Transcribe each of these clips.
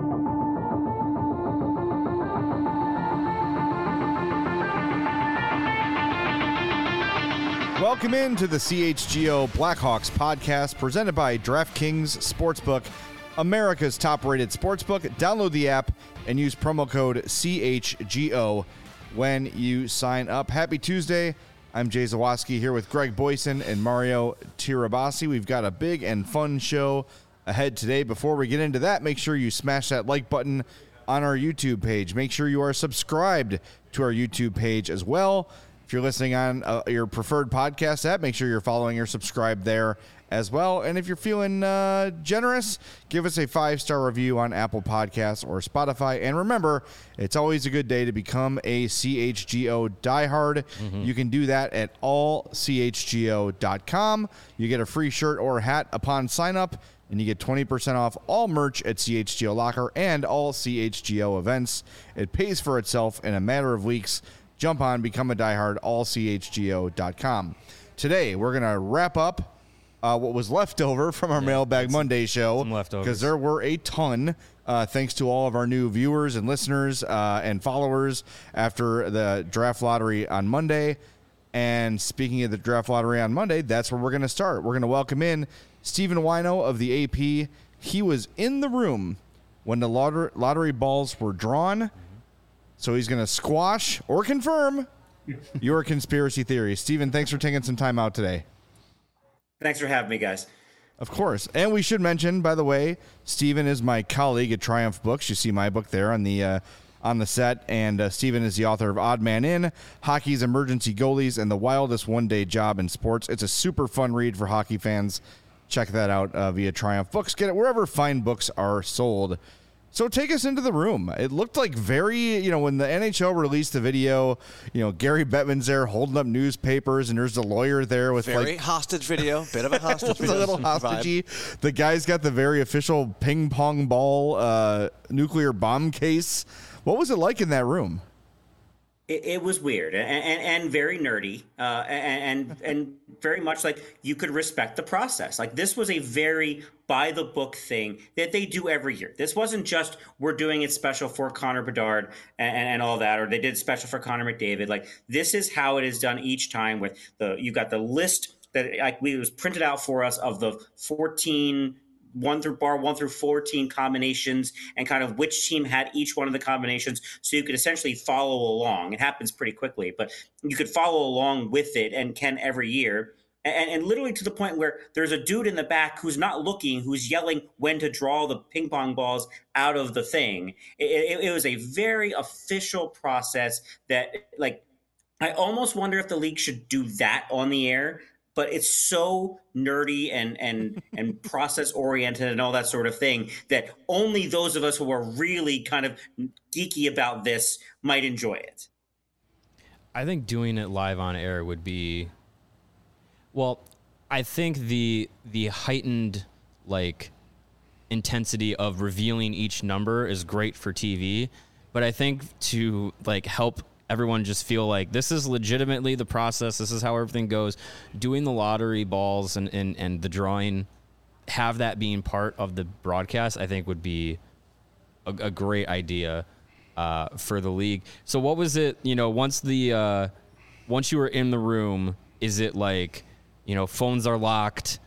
Welcome into the CHGO Blackhawks podcast presented by DraftKings Sportsbook, America's top-rated sportsbook. Download the app and use promo code CHGO when you sign up. Happy Tuesday. I'm Jay Zawaski here with Greg Boyson and Mario Tirabassi. We've got a big and fun show ahead today. Before we get into that, make sure you smash that like button on our YouTube page. Make sure you are subscribed to our YouTube page as well. If you're listening on your preferred podcast app, make sure you're following or subscribed there as well. And if you're feeling generous, give us a 5-star review on Apple Podcasts or Spotify. And remember, it's always a good day to become a CHGO diehard. You can do that at allchgo.com. You get a free shirt or hat upon sign up, and you get 20% off all merch at CHGO Locker and all CHGO events. It pays for itself in a matter of weeks. Jump on, become a diehard, allchgo.com. Today, we're going to wrap up what was left over from our Mailbag Monday show, because there were a ton, thanks to all of our new viewers and listeners and followers after the draft lottery on Monday. And speaking of the draft lottery on Monday, that's where we're going to start. We're going to welcome in Stephen Wino of the AP. He was in the room when the lottery balls were drawn. So he's going to squash or confirm your conspiracy theory. Stephen, thanks for taking some time out today. Thanks for having me, guys. Of course. And we should mention, by the way, Stephen is my colleague at Triumph Books. You see my book there on the set. And Stephen is the author of Odd Man In, Hockey's Emergency Goalies, and The Wildest One-Day Job in Sports. It's a super fun read for hockey fans. Check that out via Triumph Books. Get it wherever fine books are sold. So take us into the room. It looked like very, when the NHL released the video, Gary Bettman's there holding up newspapers, and there's the lawyer there with very hostage video, bit of a hostage video. A little hostagey. The guy's got the very official ping pong ball nuclear bomb case. What was it like in that room? It was weird and very nerdy and very much like you could respect the process. Like, this was a very by the book thing that they do every year. This wasn't just we're doing it special for Connor Bedard and all that, or they did special for Connor McDavid. Like, this is how it is done each time. With you got the list that it was printed out for us of the 14 1 through 14 combinations and kind of which team had each one of the combinations, so you could essentially follow along. It happens pretty quickly, but you could follow along with it and can every year. And literally to the point where there's a dude in the back who's not looking, who's yelling when to draw the ping pong balls out of the thing. It was a very official process that, like, I almost wonder if the league should do that on the air. But it's so nerdy and process oriented and all that sort of thing that only those of us who are really kind of geeky about this might enjoy it. I think doing it live on air would be, well, I think the heightened intensity of revealing each number is great for TV, but I think to help everyone just feel like this is legitimately the process, this is how everything goes, doing the lottery balls and the drawing, have that being part of the broadcast, I think would be a great idea for the league. So what was it, once you were in the room, is it phones are locked,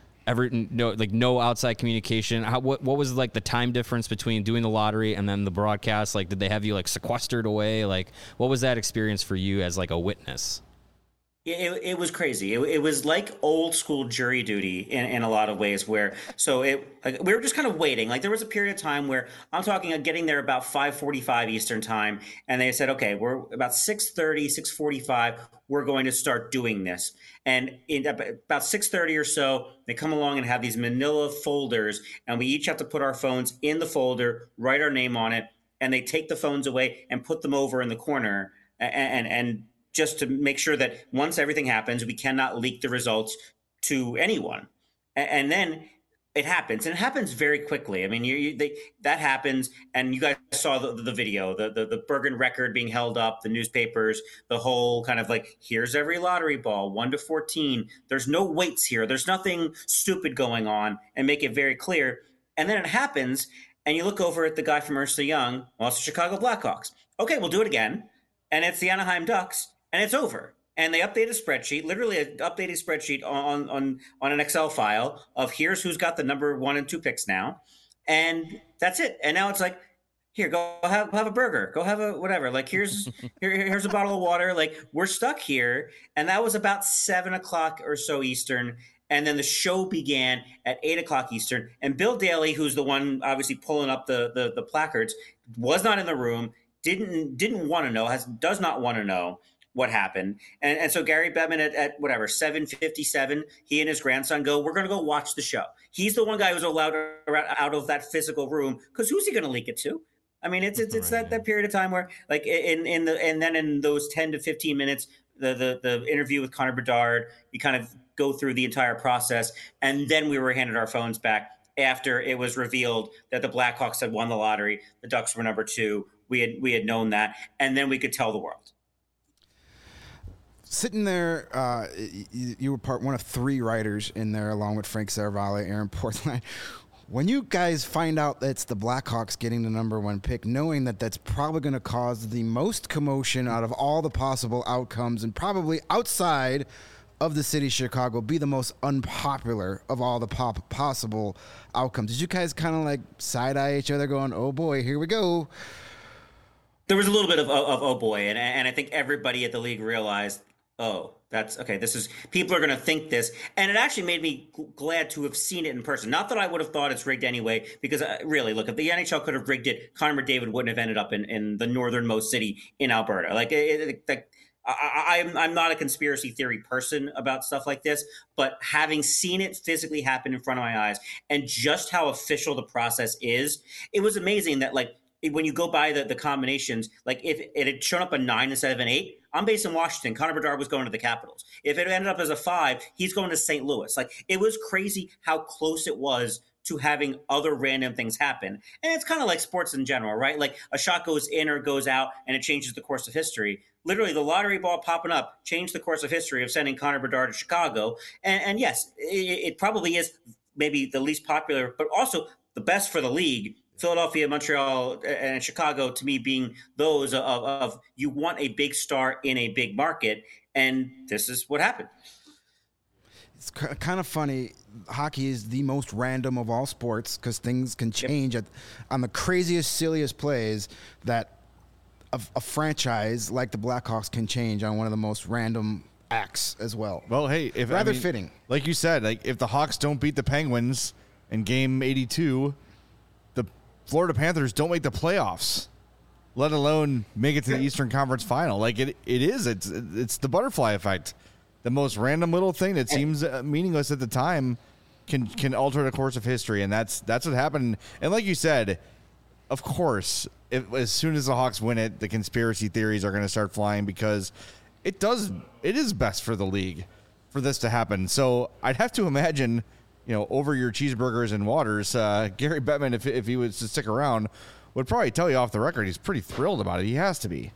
no outside communication? What was the time difference between doing the lottery and then the broadcast? Did they have you sequestered away? What was that experience for you as a witness? It was crazy. It was like old school jury duty in a lot of ways, where we were just kind of waiting. There was a period of time where I'm talking getting there about 5:45 Eastern time, and they said, okay, we're about 6:30, 6:45, we're going to start doing this. And in about 6:30 or so, they come along and have these manila folders, and we each have to put our phones in the folder, write our name on it, and they take the phones away and put them over in the corner and just to make sure that once everything happens, we cannot leak the results to anyone. And then it happens, and it happens very quickly. I mean, that happens, and you guys saw the video, the Bergen record being held up, the newspapers, the whole kind of here's every lottery ball, 1 to 14. There's no weights here. There's nothing stupid going on, and make it very clear. And then it happens, and you look over at the guy from Ernst & Young, well, it's the Chicago Blackhawks. Okay, we'll do it again. And it's the Anaheim Ducks, and it's over. And they update a spreadsheet, literally an updated spreadsheet on an Excel file of here's who's got the number 1 and 2 picks now. And that's it. And now it's like, here, go have a burger. Go have a whatever. Like, here's a bottle of water. Like, we're stuck here. And that was about 7 o'clock or so Eastern. And then the show began at 8 o'clock Eastern. And Bill Daly, who's the one obviously pulling up the placards, was not in the room, didn't want to know, does not want to know what happened. And so Gary Bettman at whatever, 7:57, he and his grandson go, we're going to go watch the show. He's the one guy who's allowed out of that physical room, because who's he going to leak it to? I mean, it's that period of time where, like, in those 10 to 15 minutes, the interview with Connor Bedard, you kind of go through the entire process, and then we were handed our phones back after it was revealed that the Blackhawks had won the lottery, the Ducks were number 2. We had known that, and then we could tell the world. Sitting there, you were one of 3 writers in there, along with Frank Saravalli, Aaron Portline. When you guys find out that it's the Blackhawks getting the number 1 pick, knowing that that's probably going to cause the most commotion out of all the possible outcomes, and probably outside of the city of Chicago, be the most unpopular of all the possible outcomes, did you guys kind of like side-eye each other going, oh boy, here we go? There was a little bit of oh boy, and I think everybody at the league realized, oh, that's okay. People are going to think this, and it actually made me glad to have seen it in person. Not that I would have thought it's rigged anyway, because really, look, if the NHL could have rigged it, Connor McDavid wouldn't have ended up in the northernmost city in Alberta. Like, I'm not a conspiracy theory person about stuff like this, but having seen it physically happen in front of my eyes, and just how official the process is, it was amazing that, like, when you go by the combinations, like if it had shown up a 9 instead of an 8, I'm based in Washington. Connor Bedard was going to the Capitals. If it ended up as a 5, he's going to St. Louis. Like, it was crazy how close it was to having other random things happen. And it's kind of like sports in general, right? Like, a shot goes in or goes out and it changes the course of history. Literally, the lottery ball popping up changed the course of history of sending Connor Bedard to Chicago. And yes, it probably is maybe the least popular, but also the best for the league. Philadelphia, Montreal, and Chicago, to me, being those of you want a big star in a big market, and this is what happened. It's kind of funny. Hockey is the most random of all sports, because things can change on the craziest, silliest plays that a franchise like the Blackhawks can change on one of the most random acts as well. Well, hey, fitting. Like you said, like, if the Hawks don't beat the Penguins in Game 82, the Florida Panthers don't make the playoffs, let alone make it to the Eastern Conference Final. Like, it's the butterfly effect. The most random little thing that seems meaningless at the time can alter the course of history, and that's what happened. And like you said, of course, as soon as the Hawks win it, the conspiracy theories are going to start flying, because it is best for the league for this to happen. So I'd have to imagine, over your cheeseburgers and waters, Gary Bettman, if he was to stick around, would probably tell you off the record he's pretty thrilled about it. He has to be.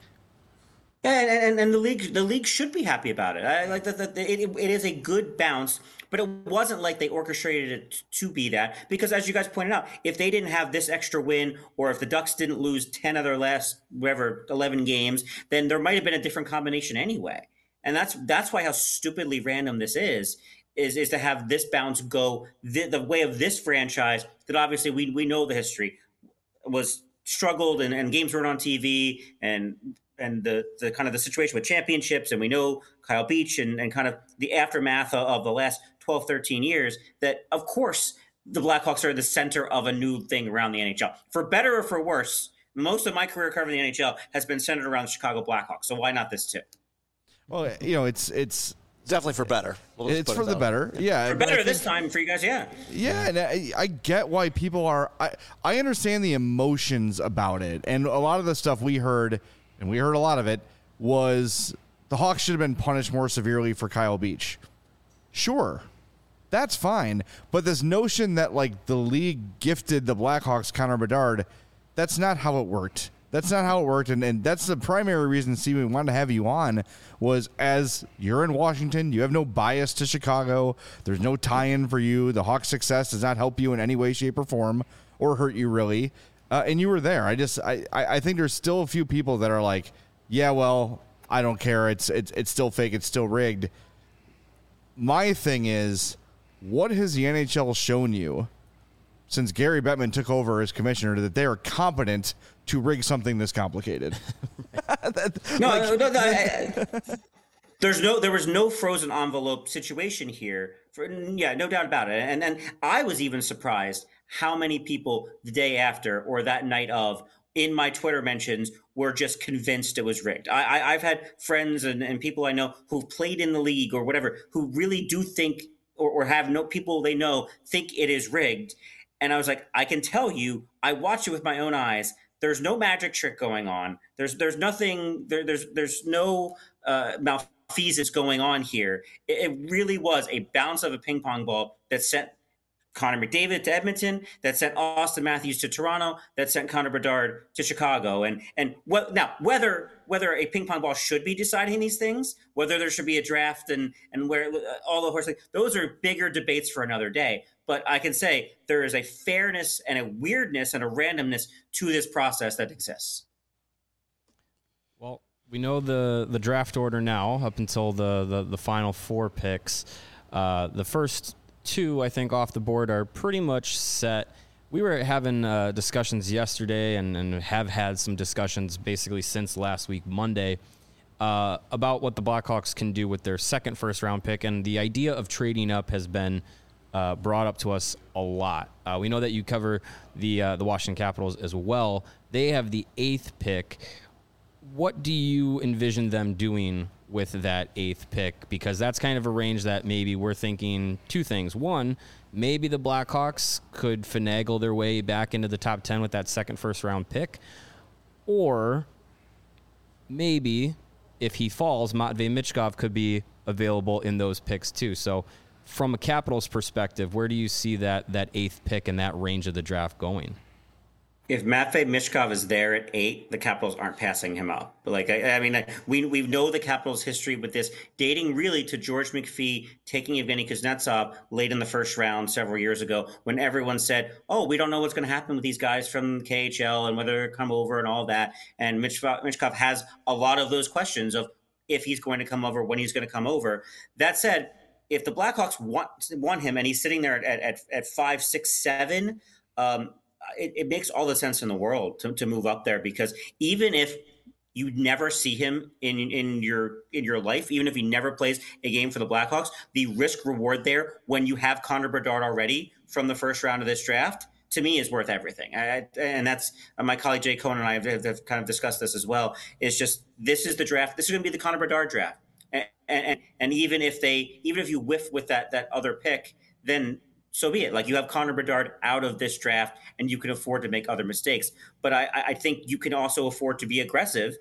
Yeah, and the league should be happy about it. I like that. It is a good bounce, but it wasn't like they orchestrated it to be that. Because as you guys pointed out, if they didn't have this extra win, or if the Ducks didn't lose 10 of their last 11 games, then there might have been a different combination anyway. And that's why how stupidly random this is to have this bounce go the way of this franchise that obviously we know the history was struggled and games weren't on TV and the kind of the situation with championships, and we know Kyle Beach and kind of the aftermath of the last 12, 13 years, that of course the Blackhawks are the center of a new thing around the NHL. For better or for worse, most of my career covering the NHL has been centered around the Chicago Blackhawks. So why not this too? Well, it's definitely for better. It's for the better. Yeah. For better this time for you guys, yeah. Yeah, and I get why people are – I understand the emotions about it. And a lot of the stuff we heard – and we heard a lot of it, was the Hawks should have been punished more severely for Kyle Beach. Sure, that's fine. But this notion that, like, the league gifted the Blackhawks Connor Bedard, that's not how it worked. That's not how it worked. And that's the primary reason, Steve, we wanted to have you on, was as you're in Washington, you have no bias to Chicago. There's no tie-in for you. The Hawks' success does not help you in any way, shape, or form. or hurt you really, and you were there. I think there's still a few people that are like, yeah, well, I don't care. It's still fake. It's still rigged. My thing is, what has the NHL shown you since Gary Bettman took over as commissioner that they are competent to rig something this complicated? There was no frozen envelope situation here. No doubt about it. And I was even surprised how many people the day after or that night of in my Twitter mentions were just convinced it was rigged. I've had friends and people I know who've played in the league or whatever who really do think or have no people they know think it is rigged. And I was like, I can tell you, I watched it with my own eyes. There's no magic trick going on. There's nothing. There's no malfeasance going on here. It really was a bounce of a ping pong ball that sent Connor McDavid to Edmonton, that sent Austin Matthews to Toronto, that sent Connor Bedard to Chicago. And whether a ping pong ball should be deciding these things, whether there should be a draft and where all the horse, those are bigger debates for another day. But I can say there is a fairness and a weirdness and a randomness to this process that exists. Well, we know the draft order now up until the final 4 picks. The first 2, I think, off the board are pretty much set. We were having discussions yesterday and have had some discussions basically since last week, Monday, about what the Blackhawks can do with their second first-round pick. And the idea of trading up has been brought up to us a lot. We know that you cover the Washington Capitals as well. They have the 8th pick. What do you envision them doing with that 8th pick? Because that's kind of a range that maybe we're thinking 2 things. One, maybe the Blackhawks could finagle their way back into the top 10 with that second first-round pick. Or maybe if he falls, Matvei Michkov could be available in those picks too. So from a Capitals perspective, where do you see that 8th pick and that range of the draft going? If Matvei Michkov is there at 8, the Capitals aren't passing him up. But we know the Capitals' history with this, dating really to George McPhee taking Evgeny Kuznetsov late in the first round several years ago, when everyone said, "Oh, we don't know what's going to happen with these guys from KHL and whether they come over and all that." And Michkov has a lot of those questions of if he's going to come over, when he's going to come over. That said, if the Blackhawks want him and he's sitting there at 5, 6, 7. It makes all the sense in the world to move up there, because even if you never see him in your life, even if he never plays a game for the Blackhawks, the risk reward there when you have Connor Bedard already from the first round of this draft, to me, is worth everything. And that's my colleague Jay Cohen and I have kind of discussed this as well. It's just, this is the draft. This is going to be the Connor Bedard draft. And even if you whiff with that other pick, then so be it. Like, you have Connor Bedard out of this draft and you can afford to make other mistakes. But I think you can also afford to be aggressive.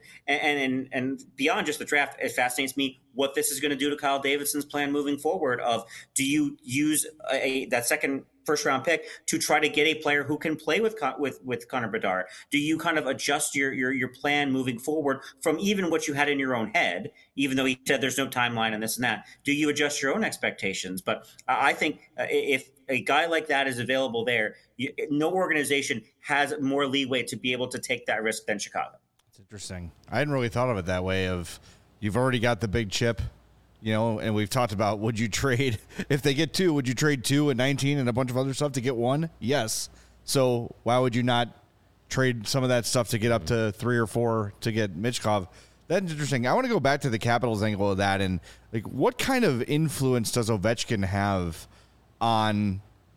And beyond just the draft, it fascinates me what this is going to do to Kyle Davidson's plan moving forward of, do you use that second first round pick to try to get a player who can play with Connor Bedard? Do you kind of adjust your plan moving forward from even what you had in your own head, even though he said there's no timeline and this and that? Do you adjust your own expectations? But I think if a guy like that is available there, no organization has more leeway to be able to take that risk than Chicago. It's interesting. I hadn't really thought of it that way, of you've already got the big chip, and we've talked about, would you trade, if they get 2, would you trade 2 and 19 and a bunch of other stuff to get 1? Yes. So why would you not trade some of that stuff to get up to 3 or 4 to get Michkov? That's interesting. I want to go back to the Capitals angle of that, and like, what kind of influence does Ovechkin have on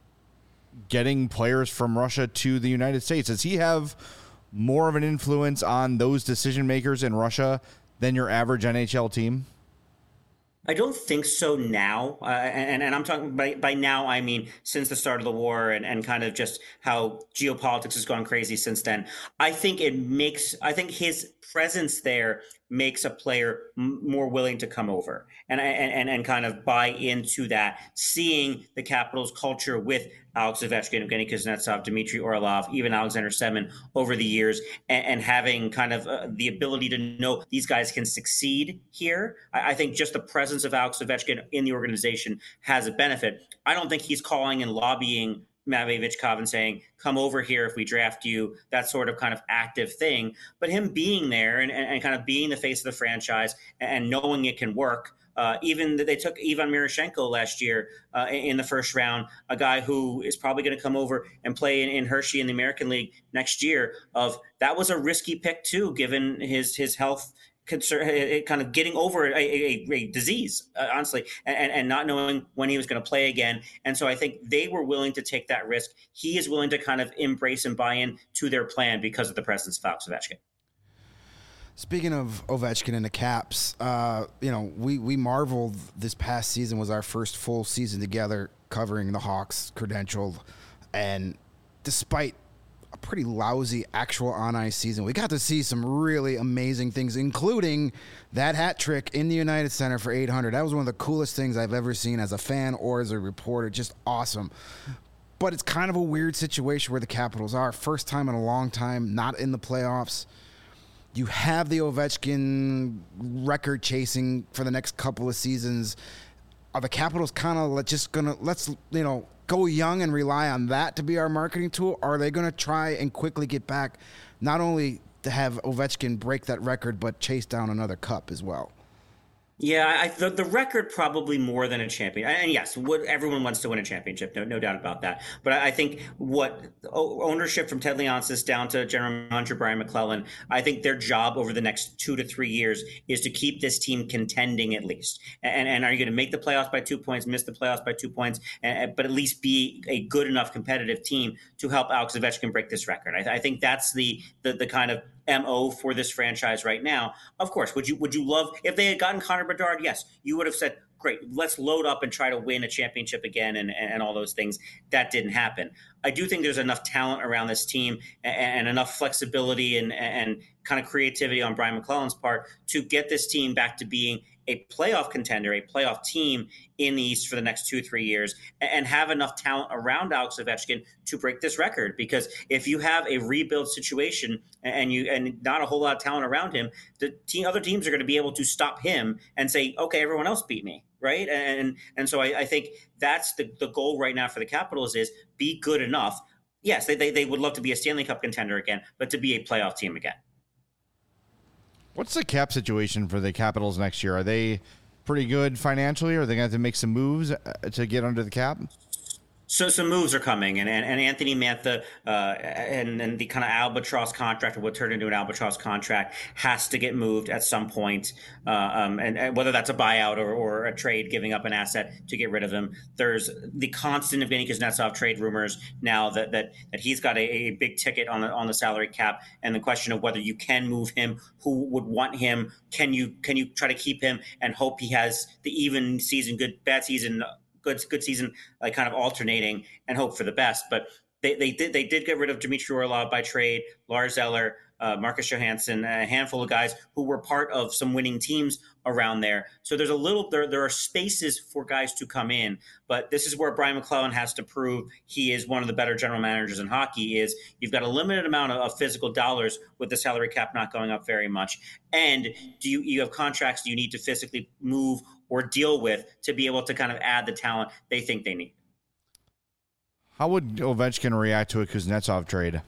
getting players from Russia to the United States? Does he have more of an influence on those decision makers in Russia than your average NHL team? I don't think so now. And I'm talking by now, I mean since the start of the war and kind of just how geopolitics has gone crazy since then. I think his presence there makes a player more willing to come over and kind of buy into that, seeing the Capitals culture with Alex Ovechkin, Evgeny Kuznetsov, Dmitry Orlov, even Alexander Semin over the years, and having kind of the ability to know these guys can succeed here. I think just the presence of Alex Ovechkin in the organization has a benefit. I don't think he's calling and lobbying Matvei Vichkov saying, come over here if we draft you, that sort of kind of active thing. But him being there and kind of being the face of the franchise and knowing it can work. Even they took Ivan Miroshchenko last year in the first round, a guy who is probably going to come over and play in Hershey in the American League next year. That was a risky pick too, given his health concern, kind of getting over a disease, honestly, and not knowing when he was going to play again. And so I think they were willing to take that risk. He is willing to kind of embrace and buy in to their plan because of the presence of Alex Ovechkin. Speaking of Ovechkin and the Caps, we marveled this past season was our first full season together covering the Hawks, credentialed, and despite a pretty lousy actual on-ice season, we got to see some really amazing things, including that hat trick in the United Center for 800. That was one of the coolest things I've ever seen as a fan or as a reporter. Just awesome. But it's kind of a weird situation where the Capitals are. First time in a long time, not in the playoffs. You have the Ovechkin record chasing for the next couple of seasons. Are the Capitals kind of just going to, go young and rely on that to be our marketing tool? Or are they going to try and quickly get back, not only to have Ovechkin break that record, but chase down another cup as well? Yeah, the record probably more than a champion. And yes, everyone wants to win a championship, no doubt about that. But I think what ownership from Ted Leonsis down to general manager Brian McClellan, I think their job over the next 2 to 3 years is to keep this team contending at least. And are you going to make the playoffs by 2 points, miss the playoffs by 2 points, but at least be a good enough competitive team to help Alex Ovechkin break this record? I think that's the kind of MO for this franchise right now. Of course, would you love if they had gotten Connor Bedard? Yes, you would have said, great, let's load up and try to win a championship again and all those things. That didn't happen. I do think there's enough talent around this team and enough flexibility and kind of creativity on Brian McClellan's part to get this team back to being a playoff contender, a playoff team in the East for the next 2-3 years, and have enough talent around Alex Ovechkin to break this record. Because if you have a rebuild situation and not a whole lot of talent around him, other teams are going to be able to stop him and say, okay, everyone else beat me, right? And so I think that's the goal right now for the Capitals is be good enough. Yes, they would love to be a Stanley Cup contender again, but to be a playoff team again. What's the cap situation for the Capitals next year? Are they pretty good financially? Or are they going to have to make some moves to get under the cap? So some moves are coming, and Anthony Mantha and the kind of albatross contract, or what turned into an albatross contract, has to get moved at some point. And whether that's a buyout or a trade, giving up an asset to get rid of him. There's the constant Evgeny Kuznetsov trade rumors now that he's got a big ticket on the salary cap, and the question of whether you can move him, who would want him, can you try to keep him and hope he has the even season, good bad season, good season, like kind of alternating, and hope for the best. But they did get rid of Dmitry Orlov by trade, Lars Eller, Marcus Johansson, a handful of guys who were part of some winning teams around there. So there's there are spaces for guys to come in, but this is where Brian McClellan has to prove he is one of the better general managers in hockey. Is you've got a limited amount of physical dollars with the salary cap not going up very much, and you have contracts you need to physically move or deal with to be able to kind of add the talent they think they need. How would Ovechkin react to a Kuznetsov trade?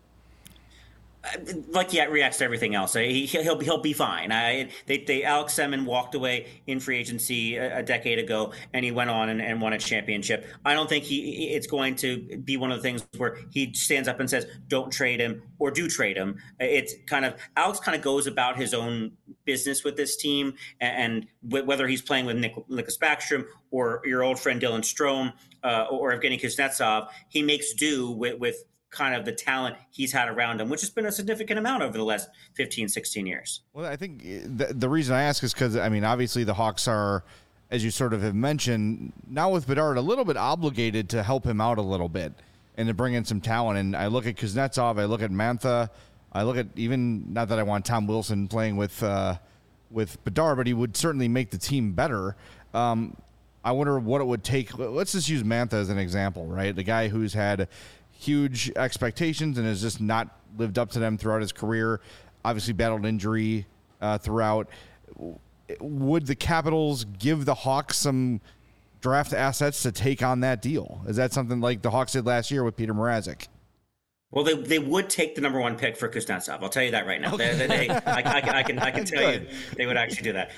Like he reacts to everything else. He'll be fine. Alex Semin walked away in free agency a decade ago, and he went on and won a championship. I don't think it's going to be one of the things where he stands up and says, "Don't trade him" or "Do trade him." It's kind of Alex kind of goes about his own business with this team, and whether he's playing with Nicklas Backstrom or your old friend Dylan Strome or Evgeny Kuznetsov, he makes do with kind of the talent he's had around him, which has been a significant amount over the last 15, 16 years. Well, I think the reason I ask is because, I mean, obviously the Hawks are, as you sort of have mentioned, now with Bedard, a little bit obligated to help him out a little bit and to bring in some talent. And I look at Kuznetsov, I look at Mantha, I look at even, not that I want Tom Wilson playing with Bedard, but he would certainly make the team better. I wonder what it would take. Let's just use Mantha as an example, right? The guy who's had huge expectations and has just not lived up to them throughout his career, obviously battled injury throughout. Would the Capitals give the Hawks some draft assets to take on that deal? Is that something like the Hawks did last year with Peter Mrazek? Well, they would take the number 1 pick for Kuznetsov. I'll tell you that right now. I can tell you they would actually do that.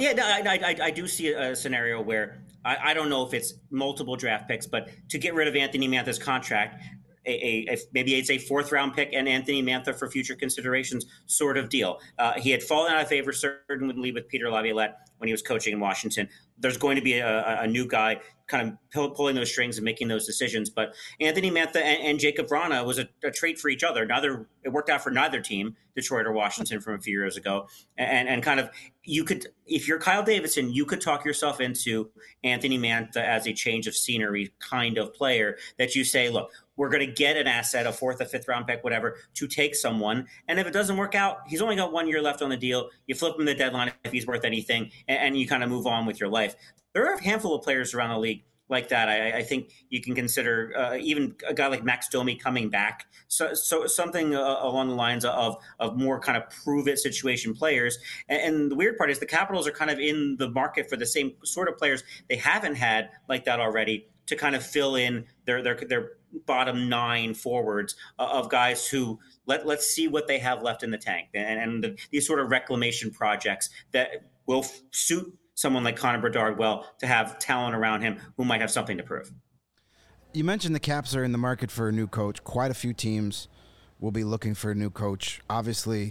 I do see a scenario where I don't know if it's multiple draft picks, but to get rid of Anthony Mantha's contract, maybe it's a 4th round pick and Anthony Mantha for future considerations sort of deal. He had fallen out of favor certainly with Peter Laviolette when he was coaching in Washington. There's going to be a new guy kind of pulling those strings and making those decisions. But Anthony Mantha and Jacob Vrana was a trade for each other. It worked out for neither team, Detroit or Washington, from a few years ago. And kind of, you could, if you're Kyle Davidson, you could talk yourself into Anthony Mantha as a change of scenery kind of player that you say, look, we're going to get an asset, a 4th or 5th round pick, whatever, to take someone. And if it doesn't work out, he's only got 1 year left on the deal. You flip him the deadline if he's worth anything, and you kind of move on with your life. There are a handful of players around the league like that. I think you can consider even a guy like Max Domi coming back. So something along the lines of more kind of prove-it situation players. And the weird part is the Capitals are kind of in the market for the same sort of players they haven't had like that already to kind of fill in their bottom 9 forwards of guys who let's see what they have left in the tank. And these sort of reclamation projects that will suit someone like Connor Bedard well to have talent around him who might have something to prove. You mentioned the Caps are in the market for a new coach. Quite a few teams will be looking for a new coach. Obviously,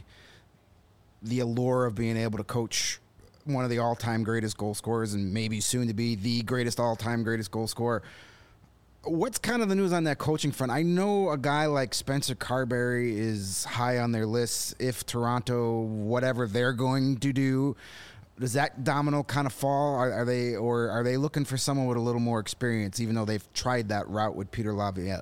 the allure of being able to coach one of the all-time greatest goal scorers and maybe soon to be the greatest all-time greatest goal scorer. What's kind of the news on that coaching front? I know a guy like Spencer Carberry is high on their list. If Toronto, whatever they're going to do, does that domino kind of fall? Are they looking for someone with a little more experience, even though they've tried that route with Peter Laviolette?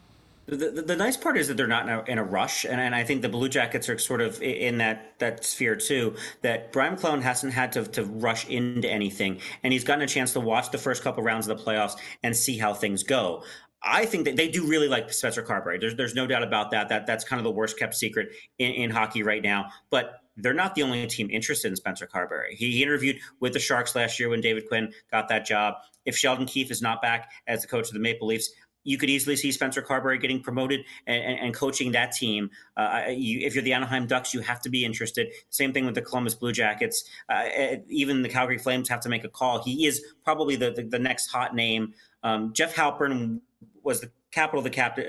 The nice part is that they're not in a rush, and I think the Blue Jackets are sort of in that sphere too, that Brian McClellan hasn't had to rush into anything, and he's gotten a chance to watch the first couple rounds of the playoffs and see how things go. I think that they do really like Spencer Carberry. There's no doubt about that. That's kind of the worst kept secret in hockey right now. But they're not the only team interested in Spencer Carberry. He interviewed with the Sharks last year when David Quinn got that job. If Sheldon Keefe is not back as the coach of the Maple Leafs, you could easily see Spencer Carberry getting promoted and coaching that team. If you're the Anaheim Ducks, you have to be interested. Same thing with the Columbus Blue Jackets. Even the Calgary Flames have to make a call. He is probably the next hot name. Jeff Halpern was the captain of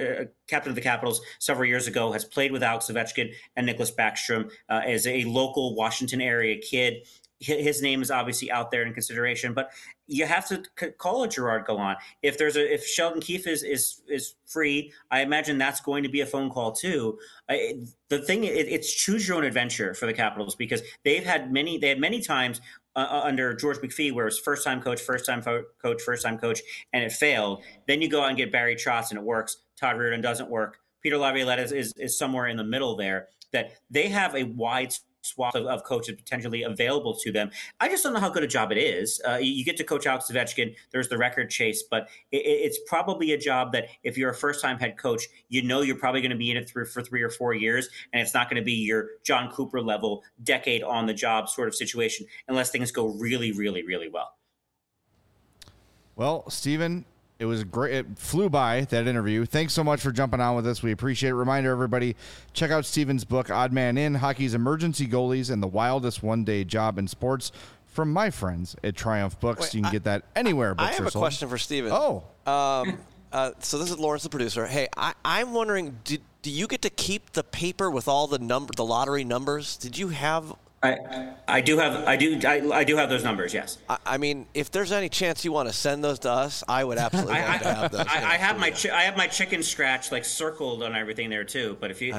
the Capitals several years ago, has played with Alex Ovechkin and Nicholas Backstrom, as a local Washington area kid. His name is obviously out there in consideration, but you have to call a Gerard Gallant. If Sheldon Keefe is free, I imagine that's going to be a phone call too. The thing, it's choose your own adventure for the Capitals, because they had many times under George McPhee where it was first time coach, and it failed. Then you go out and get Barry Trotz and it works. Todd Reirden doesn't work. Peter Laviolette is somewhere in the middle there. That they have a wide swath of coaches potentially available to them. I just don't know how good a job it is. You get to coach Alex Ovechkin. There's the record chase, but it's probably a job that if you're a first-time head coach, you know you're probably going to be in it for 3 or 4 years, and it's not going to be your John Cooper level decade on the job sort of situation unless things go really, really, really well. Well, Steven, it was great. It flew by, that interview. Thanks so much for jumping on with us. We appreciate it. Reminder, everybody, check out Steven's book, Odd Man In, Hockey's Emergency Goalies and the Wildest One-Day Job in Sports, from my friends at Triumph Books. Wait, you can get that anywhere books are sold. I have a question for Steven. Oh. So this is Lawrence, the producer. Hey, I'm wondering, do you get to keep the paper with all the lottery numbers? Did you have... I do have those numbers. Yes. I mean, if there's any chance you want to send those to us, I would absolutely love to have those. I have my chicken scratch like circled on everything there too. But if you,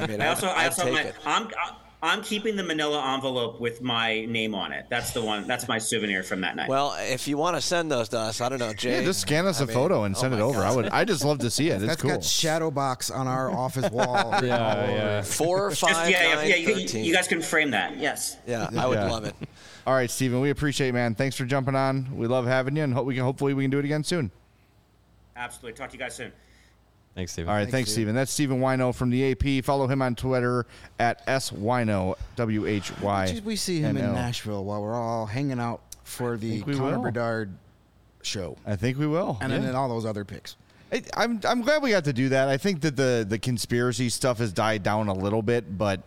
I'm keeping the manila envelope with my name on it. That's the one. That's my souvenir from that night. Well, if you want to send those to us, I don't know, Jay. Yeah, just scan us a photo and send it over. God. I just love to see it. It's That's cool. got shadow box on our office wall. Yeah. 4, 5, 9, 13. You guys can frame that. Yes. Yeah, I would love it. All right, Steven, we appreciate it, man. Thanks for jumping on. We love having you, and hopefully we can do it again soon. Absolutely. Talk to you guys soon. Thanks, Steven. All right, thanks, Steven. That's Steven Wino from the AP. Follow him on Twitter at SWino, WHY. We see him in Nashville while we're all hanging out for the Connor Bedard show. I think we will. And then all those other picks. I'm glad we got to do that. I think that the conspiracy stuff has died down a little bit, but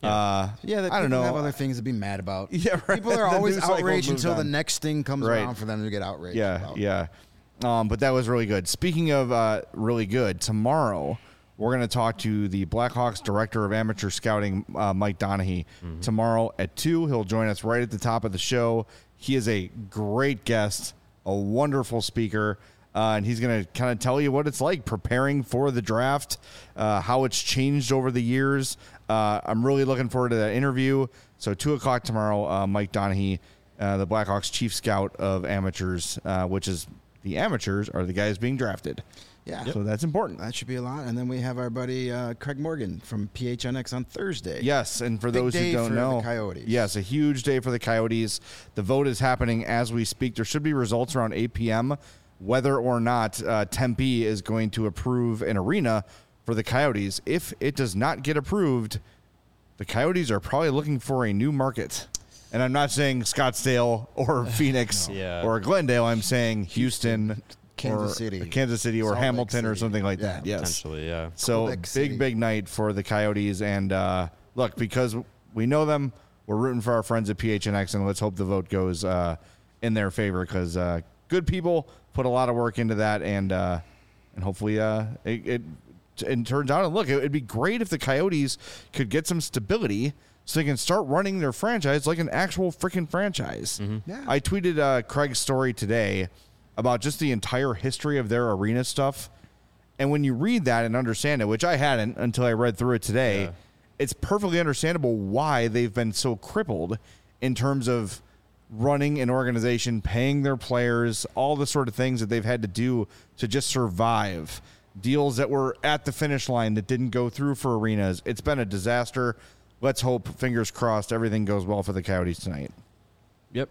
I don't know. Have other things to be mad about. Yeah, right. People are always outraged until the on. next thing comes Right. around for them to get outraged. Yeah. But that was really good. Speaking of really good, tomorrow we're going to talk to the Blackhawks Director of Amateur Scouting, Mike Donahue. Tomorrow at 2, he'll join us right at the top of the show. He is a great guest, a wonderful speaker, and he's going to kind of tell you what it's like preparing for the draft, how it's changed over the years. I'm really looking forward to that interview. So 2 o'clock tomorrow, Mike Donahue, the Blackhawks Chief Scout of Amateurs, which is the amateurs are the guys being drafted. Yeah. So that's important. That should be a lot. And then we have our buddy Craig Morgan from PHNX on Thursday. Yes, and for Big those who day don't for know, the Coyotes. Yes, a huge day for the Coyotes. The vote is happening as we speak. There should be results around 8 p.m. whether or not Tempe is going to approve an arena for the Coyotes. If it does not get approved, the Coyotes are probably looking for a new market. And I'm not saying Scottsdale or Phoenix or Glendale. I'm saying Houston, Kansas City or Salt Lake Hamilton or City. something like Yeah. that. Yes. Potentially, yeah. So Quebec City. big night for the Coyotes. And look, because we know them, we're rooting for our friends at PHNX, and let's hope the vote goes in their favor because good people put a lot of work into that, and hopefully it turns out. And look, it'd be great if the Coyotes could get some stability so they can start running their franchise like an actual freaking franchise. Yeah. I tweeted Craig's story today about just the entire history of their arena stuff. And when you read that and understand it, which I hadn't until I read through it today, it's perfectly understandable why they've been so crippled in terms of running an organization, paying their players, all the sort of things that they've had to do to just survive. Deals that were at the finish line that didn't go through for arenas. It's been a disaster. Let's hope, fingers crossed, everything goes well for the Coyotes tonight. Yep.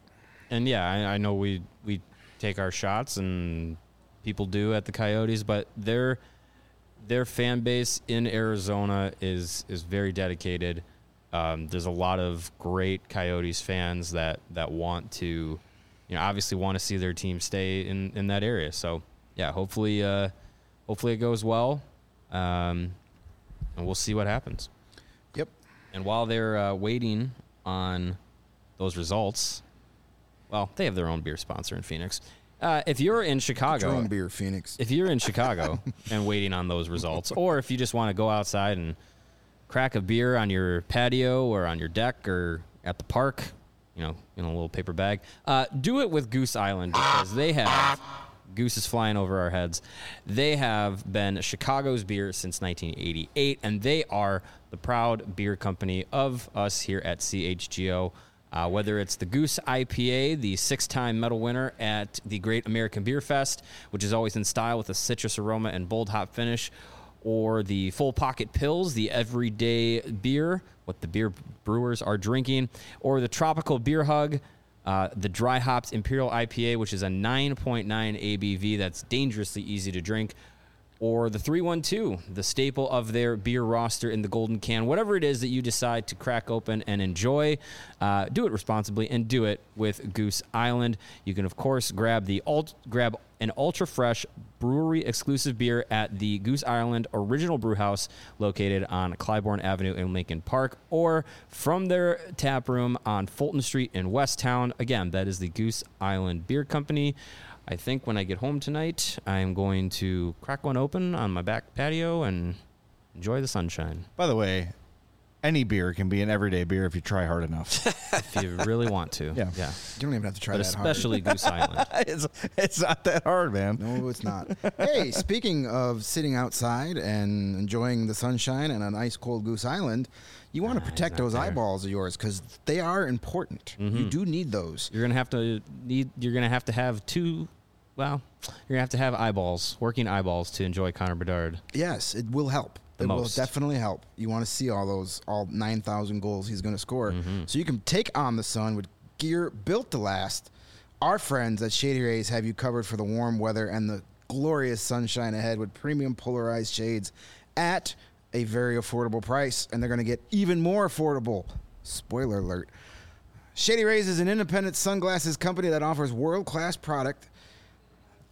And yeah, I know we take our shots and people do at the Coyotes, but their fan base in Arizona is very dedicated. There's a lot of great Coyotes fans that want to, obviously want to see their team stay in that area. So yeah, hopefully it goes well, and we'll see what happens. Yep. And while they're waiting on those results, well, they have their own beer sponsor in Phoenix. If you're in Chicago, Drone beer, Phoenix. if you're in Chicago and waiting on those results, or if you just want to go outside and crack a beer on your patio or on your deck or at the park, in a little paper bag, do it with Goose Island because they have Goose is flying over our heads. They have been Chicago's beer since 1988, and they are the proud beer company of us here at CHGO. Whether it's the Goose IPA, the 6-time medal winner at the Great American Beer Fest, which is always in style with a citrus aroma and bold hop finish, or the Full Pocket Pills, the everyday beer, what the beer brewers are drinking, or the Tropical Beer Hug, the dry hopped Imperial IPA, which is a 9.9 ABV that's dangerously easy to drink, or the 312, the staple of their beer roster in the golden can. Whatever it is that you decide to crack open and enjoy, do it responsibly and do it with Goose Island. You can, of course, grab an ultra-fresh brewery-exclusive beer at the Goose Island Original Brewhouse located on Clybourne Avenue in Lincoln Park, or from their tap room on Fulton Street in Westtown. Again, that is the Goose Island Beer Company. I think when I get home tonight, I'm going to crack one open on my back patio and enjoy the sunshine. By the way, any beer can be an everyday beer if you try hard enough. If you really want to. Yeah. You don't even have to try But that especially Goose Island. it's not that hard, man. hard. No, it's not. Hey, speaking of sitting outside and enjoying the sunshine and an ice cold Goose Island, you want to protect those eyeballs of yours because they are important. You do need those. You're gonna have to have two. Well, you're gonna have to have eyeballs, working eyeballs, to enjoy Connor Bedard. Yes, it will help. It will definitely help. You want to see all 9,000 goals he's going to score. So you can take on the sun with gear built to last. Our friends at Shady Rays have you covered for the warm weather and the glorious sunshine ahead with premium polarized shades at a very affordable price. And they're going to get even more affordable. Spoiler alert. Shady Rays is an independent sunglasses company that offers world-class product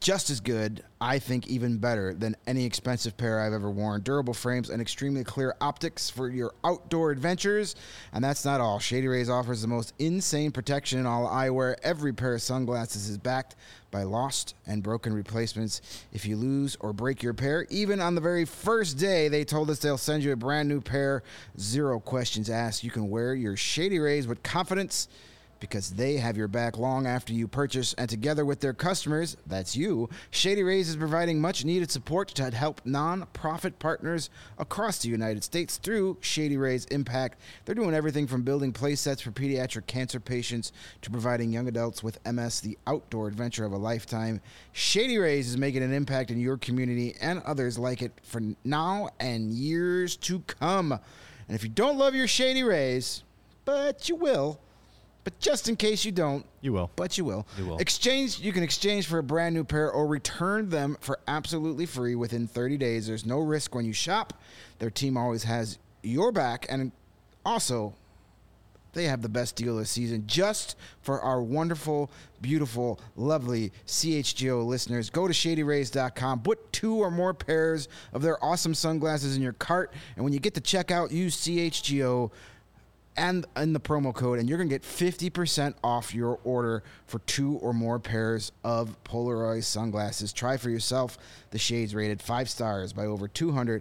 just as good, I think even better than any expensive pair I've ever worn. Durable frames and extremely clear optics for your outdoor adventures. And that's not all. Shady Rays offers the most insane protection in all eyewear. Every pair of sunglasses is backed by lost and broken replacements. If you lose or break your pair, even on the very first day, they told us they'll send you a brand new pair. 0 questions asked. You can wear your Shady Rays with confidence, because they have your back long after you purchase. And together with their customers, that's you, Shady Rays is providing much-needed support to help non-profit partners across the United States through Shady Rays Impact. They're doing everything from building play sets for pediatric cancer patients to providing young adults with MS the outdoor adventure of a lifetime. Shady Rays is making an impact in your community and others like it for now and years to come. And if you don't love your Shady Rays, but you will, but just in case you don't, You will. but you will. You will. You can exchange for a brand new pair or return them for absolutely free within 30 days. There's no risk when you shop. Their team always has your back, and also they have the best deal this season just for our wonderful, beautiful, lovely CHGO listeners. Go to ShadyRays.com. Put 2 or more pairs of their awesome sunglasses in your cart, and when you get to checkout, use CHGO and in the promo code, and you're going to get 50% off your order for 2 or more pairs of Polaroid sunglasses. Try for yourself the shades rated 5 stars by over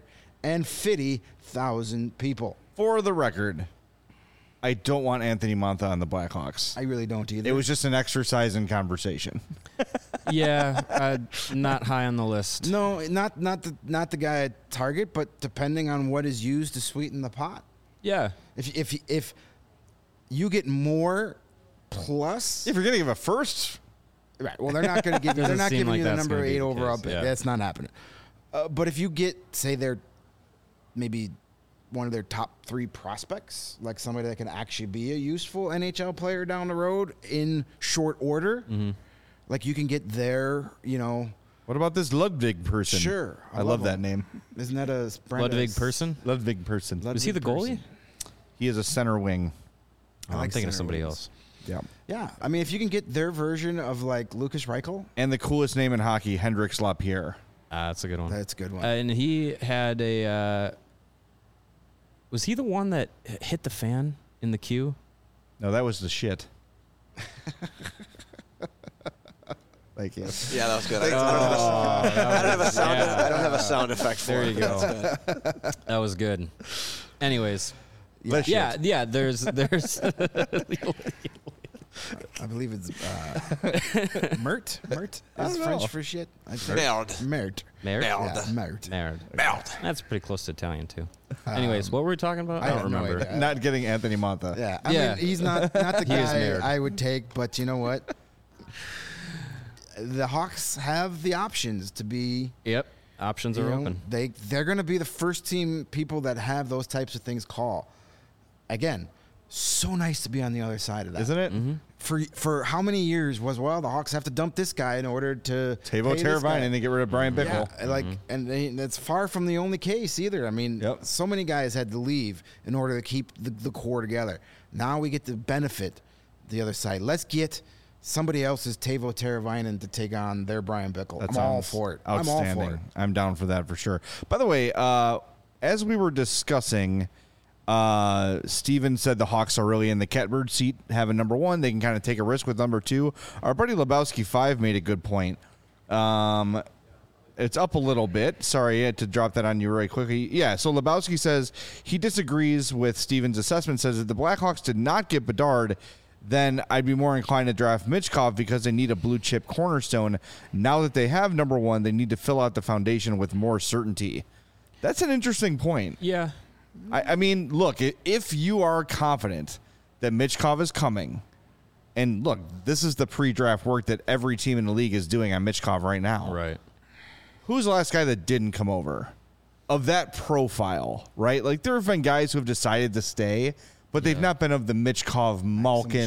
250,000 people. For the record, I don't want Anthony Mantha on the Blackhawks. I really don't either. It was just an exercise in conversation. Yeah, not high on the list. No, not the guy at Target, but depending on what is used to sweeten the pot. Yeah. If you get more plus, If you're going to give a first, right? Well, they're not going to give. They're Doesn't not seem giving like you the that's number gonna be 8 the overall case, pick. yeah. That's not happening. But if you get, say, they're maybe one of their top 3 prospects, like somebody that can actually be a useful NHL player down the road in short order, like you can get there, what about this Ludwig person? Sure. I love that name. Isn't that a Ludwig person? Ludwig person. Was he the goalie? He is a center wing. I I'm like thinking of center somebody wings. else. Yeah. Yeah, I mean, if you can get their version of like Lucas Reichel, And the coolest name in hockey, Hendrix Lapierre. That's a good one. that's a good one. And he had a. Was he the one that hit the fan in the queue? No, that was the shit. Thank you. Yeah, that was good. I don't have a sound effect for There it. you go. That was good. Anyways, The yeah, shit. yeah. There's. I believe it's Mert. Mert is French for shit. I think. Merde. Mert. Merde? Yeah, Mert. Merde. Merde. That's pretty close to Italian too. Anyways, what were we talking about? I have don't no remember. idea. Not getting Anthony Mantha. Yeah, I Yeah. mean, he's not the He is guy Mert. I would take, but you know what? The Hawks have the options to be. Yep. Options are open. They're going to be the first team people that have those types of things call. Again, so nice to be on the other side of that, Isn't it? For how many years was the Hawks have to dump this guy in order to Tavo pay this guy? Teravainen and they get rid of Brian Bickle. Yeah, and that's far from the only case either. I mean, Yep. so many guys had to leave in order to keep the core together. Now we get to benefit the other side. Let's get somebody else's Tavo Teravainen to take on their Brian Bickle. That I'm all sounds for it. Outstanding. I'm all for it. I'm down for that for sure. By the way, as we were discussing, Steven said the Hawks are really in the catbird seat, having number 1. They can kind of take a risk with number 2. Our buddy Lebowski 5 made a good point. It's up a little bit. Sorry to drop that on you really quickly. Yeah, so Lebowski says he disagrees with Steven's assessment, says that the Blackhawks did not get Bedard, then I'd be more inclined to draft Michkov because they need a blue-chip cornerstone. Now that they have number 1, they need to fill out the foundation with more certainty. That's an interesting point. Yeah. I mean, look, if you are confident that Michkov is coming, and look, this is the pre-draft work that every team in the league is doing on Michkov right now. Right. Who's the last guy that didn't come over of that profile, right? Like, there have been guys who have decided to stay, but they've not been of the Michkov, Malkin.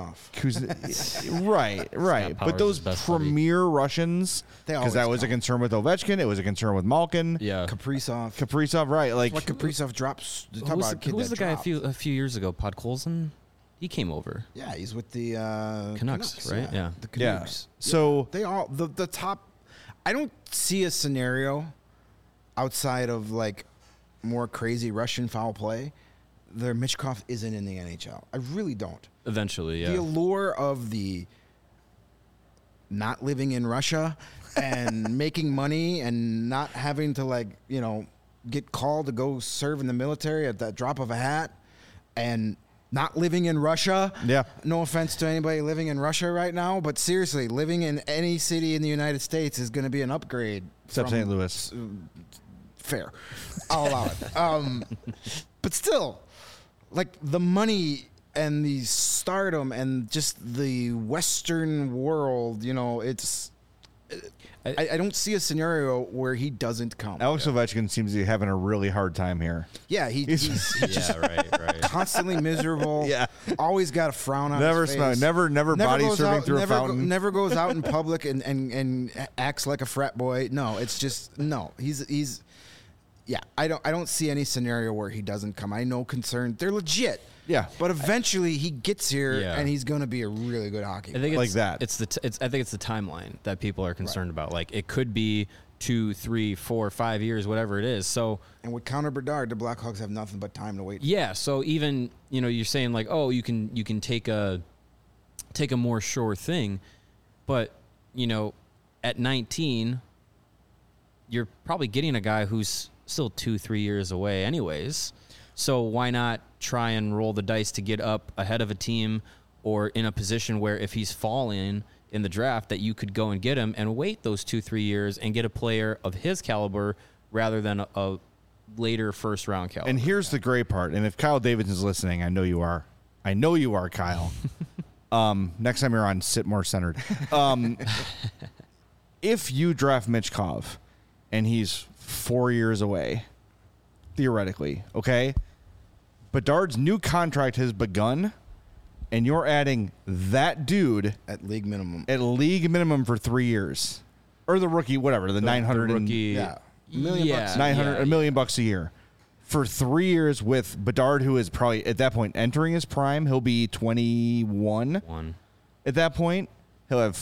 Right. But Powers' those best buddy. premier Russians, They because that always was a come. concern with Ovechkin, it was a concern with Malkin. Yeah. Kaprizov, right? Like, What Kaprizov drops. Talk Who was, about a kid who was that the guy dropped. a few years ago? Podkolzin? He came over. Yeah, he's with the Canucks, right? Yeah. The yeah. Canucks. So They all the top I don't see a scenario outside of like more crazy Russian foul play where Michkov isn't in the NHL. I really don't. Eventually, yeah. The allure of the not living in Russia and making money and not having to, like, you know, get called to go serve in the military at the drop of a hat and not living in Russia. Yeah. No offense to anybody living in Russia right now, but seriously, living in any city in the United States is going to be an upgrade. Except from- St. Louis. Fair. I'll allow it. But still, like, the money and the stardom and just the Western world, you know, it's... I don't see a scenario where he doesn't come. Alex Ovechkin seems to be having a really hard time here. Yeah, he's Yeah, right. constantly miserable. Yeah. Always got a frown on Never his smile. face. Never body goes surfing out- through a never fountain. never goes out in public and acts like a frat boy. No, it's just no. He's yeah. I don't see any scenario where he doesn't come. I know concern. They're legit. Yeah. But eventually he gets here Yeah. and he's going to be a really good hockey I player. think Like it's, that. I think it's the timeline that people are concerned about. Like, it could be 2, 3, 4, 5 years, whatever it is. So And with Connor Bedard, the Blackhawks have nothing but time to wait. yeah. So even, you know, you're saying like, oh, you can take a more sure thing, but, you know, at 19, you're probably getting a guy who's still 2, 3 years away anyways. So why not try and roll the dice to get up ahead of a team or in a position where if he's falling in the draft that you could go and get him and wait those 2, 3 years and get a player of his caliber rather than a later first round caliber. And here's the great part. And if Kyle Davidson's listening, I know you are. I know you are, Kyle. Next time you're on, sit more centered. If you draft Michkov and he's 4 years away, theoretically, okay? Bedard's new contract has begun, and you're adding that dude At league minimum. at league minimum for 3 years. Or the rookie, whatever, the 900 and- rookie, Yeah. $1 million bucks. 900 yeah, $1 million bucks a year for 3 years with Bedard, who is probably at that point entering his prime. He'll be 21 one. at that point. He'll have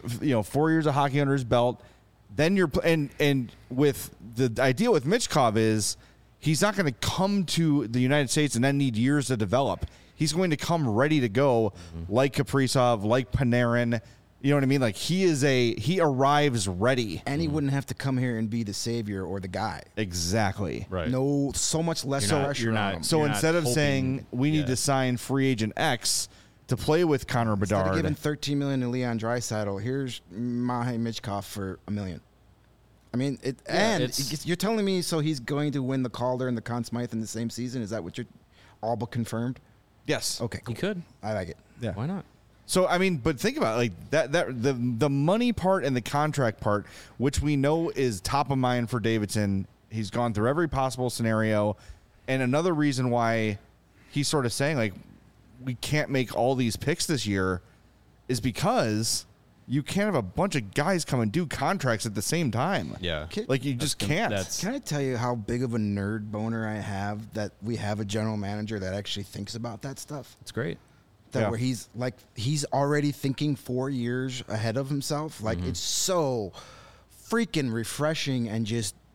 4 years of hockey under his belt. Then you're and with the idea with Michkov is he's not going to come to the United States and then need years to develop. He's going to come ready to go, like Kaprizov, like Panarin. You know what I mean? Like he arrives ready. And he wouldn't have to come here and be the savior or the guy. Exactly. Right. No, so much less pressure on him. So You're not instead of hoping- saying we need yeah. to sign free agent X to play with Connor Instead of Bedard, giving $13 million to Leon Draisaitl, here's Mahe Michkov for $1 million. I mean, you're telling me so he's going to win the Calder and the Conn Smythe in the same season? Is that what you're all but confirmed? yes, Okay, He cool. could. I like it. yeah. Why not? So I mean, but think about it, like that the money part and the contract part, which we know is top of mind for Davidson. He's gone through every possible scenario, and another reason why he's sort of saying like we can't make all these picks this year is because you can't have a bunch of guys come and do contracts at the same time. Yeah. Like you just can't. Can I tell you how big of a nerd boner I have that we have a general manager that actually thinks about that stuff? It's great. That Yeah. where he's already thinking 4 years ahead of himself. Like it's so freaking refreshing and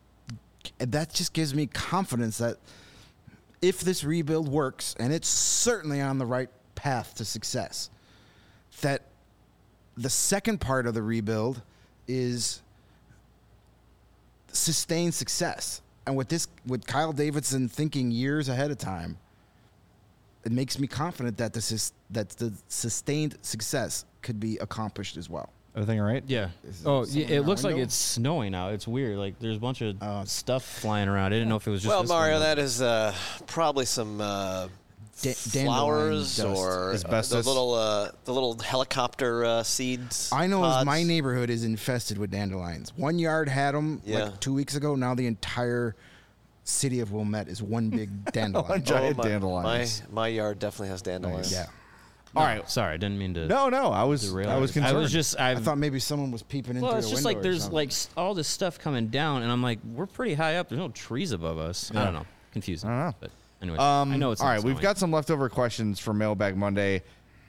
that just gives me confidence that if this rebuild works, and it's certainly on the right path to success, that the second part of the rebuild is sustained success. And with Kyle Davidson thinking years ahead of time, it makes me confident that the sustained success could be accomplished as well. Everything all right? Yeah. Is Oh, someone yeah, it in the looks like window? it's snowing out. It's weird. Like there's a bunch of stuff flying around. I didn't know if it was just. Well, this Mario, one. that is probably some dandelion flowers dust. or Asbestos. the little helicopter seeds. I know pods. my neighborhood is infested with dandelions. 1 yard had them Yeah. like 2 weeks ago. Now the entire city of Wilmette is one big dandelion. Giant my, dandelions. My yard definitely has dandelions. Yeah. All right. Sorry, I didn't mean to. No, I was derail. concerned. I was just. I thought maybe someone was peeping into Well, the it's just window like or there's something. like all this stuff coming down, and I'm like, we're pretty high up. There's no trees above us. I don't know. Confusing. I don't know. But anyway, I know it's all not right. We've snowing. got some leftover questions for Mailbag Monday.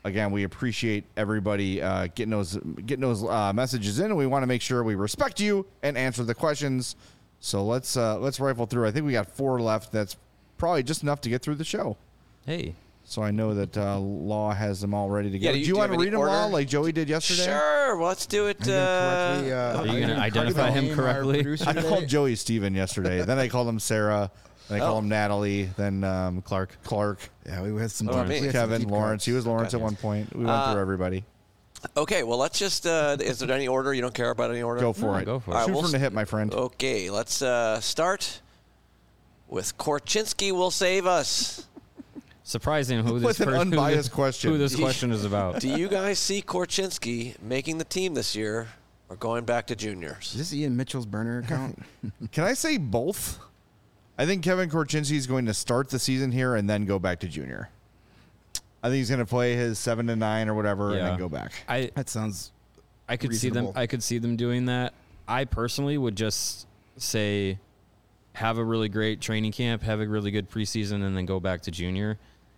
again, we appreciate everybody getting those messages in, and we want to make sure we respect you and answer the questions. So let's rifle through. I think we got 4 left. That's probably just enough to get through the show. Hey. So I know that Law has them all ready to go. Yeah, do you want to read them all like Joey did yesterday? Sure. Well, let's do it. Are you going to identify him correctly? I called Joey Steven yesterday. Then I called him Sarah. Then I called him Natalie. Then Clark. Yeah, we had some. Kevin, Lawrence. He was Lawrence at one point. We went through everybody. Okay, well, let's just. Is there any order? You don't care about any order? Go for it. Go for it. Right, Shoot from the hip, my friend. Okay, let's start with Korchinski will save us. Surprising who this With an unbiased question. Who this question is about. Do you guys see Korchinski making the team this year or going back to juniors? Is this Ian Mitchell's burner account? Can I say both? I think Kevin Korchinski is going to start the season here and then go back to junior. I think he's going to play his 7 to 9 or whatever and then go back. That sounds. I could reasonable. see them. I could see them doing that. I personally would just say, have a really great training camp, have a really good preseason, and then go back to junior.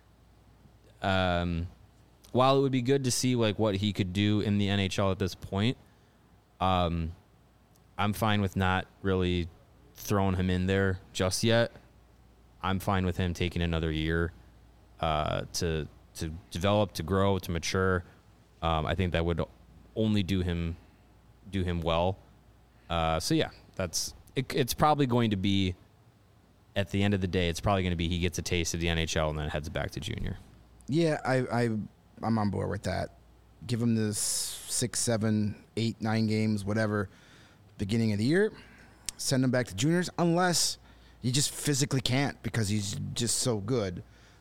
While it would be good to see like what he could do in the NHL at this point, I'm fine with not really throwing him in there just yet. I'm fine with him taking another year to develop, to grow, to mature. I think that would only do him well. So yeah, it's probably going to be, at the end of the day, it's probably going to be he gets a taste of the NHL and then heads back to junior. Yeah, I'm on board with that. Give him this 6, 7, 8, 9 games, whatever, beginning of the year. Send him back to juniors, unless you just physically can't because he's just so good.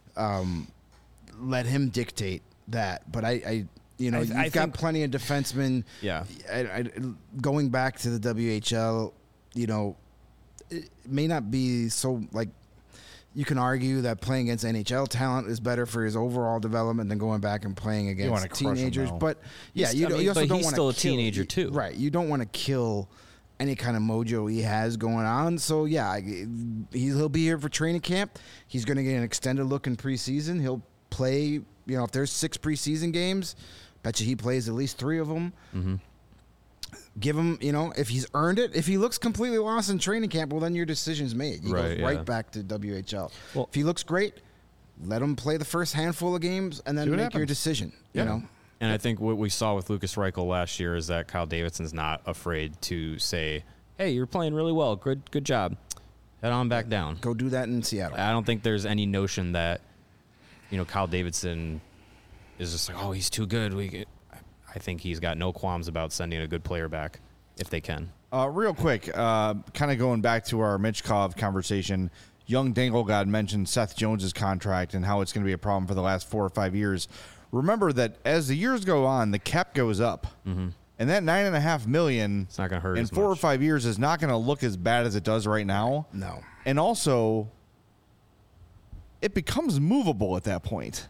Let him dictate that. But you've got plenty of defensemen. Yeah. Going back to the WHL, it may not be so like. You can argue that playing against NHL talent is better for his overall development than going back and playing against teenagers. But yeah, you also don't want to. He's still a teenager too, right? You don't want to kill any kind of mojo he has going on. So yeah, he'll be here for training camp. He's going to get an extended look in preseason. He'll play. If there's 6 preseason games, bet you he plays at least 3 of them. Mm-hmm. Give him, if he's earned it. If he looks completely lost in training camp, well, then your decision's made. He goes right back to WHL. Well, if he looks great, let him play the first handful of games and then make your decision. And I think what we saw with Lucas Reichel last year is that Kyle Davidson's not afraid to say, "Hey, you're playing really well. Good job. Head on back down. Go do that in Seattle." I don't think there's any notion that Kyle Davidson is just like, "Oh, he's too good." I think he's got no qualms about sending a good player back if they can. Real quick, kind of going back to our Michkov conversation, Young Danglegod mentioned Seth Jones's contract and how it's going to be a problem for the last 4 or 5 years. Remember that as the years go on, the cap goes up. Mm-hmm. And that $9.5 million it's not going to hurt in 4 or 5 years is not going to look as bad as it does right now. No. And also, it becomes movable at that point.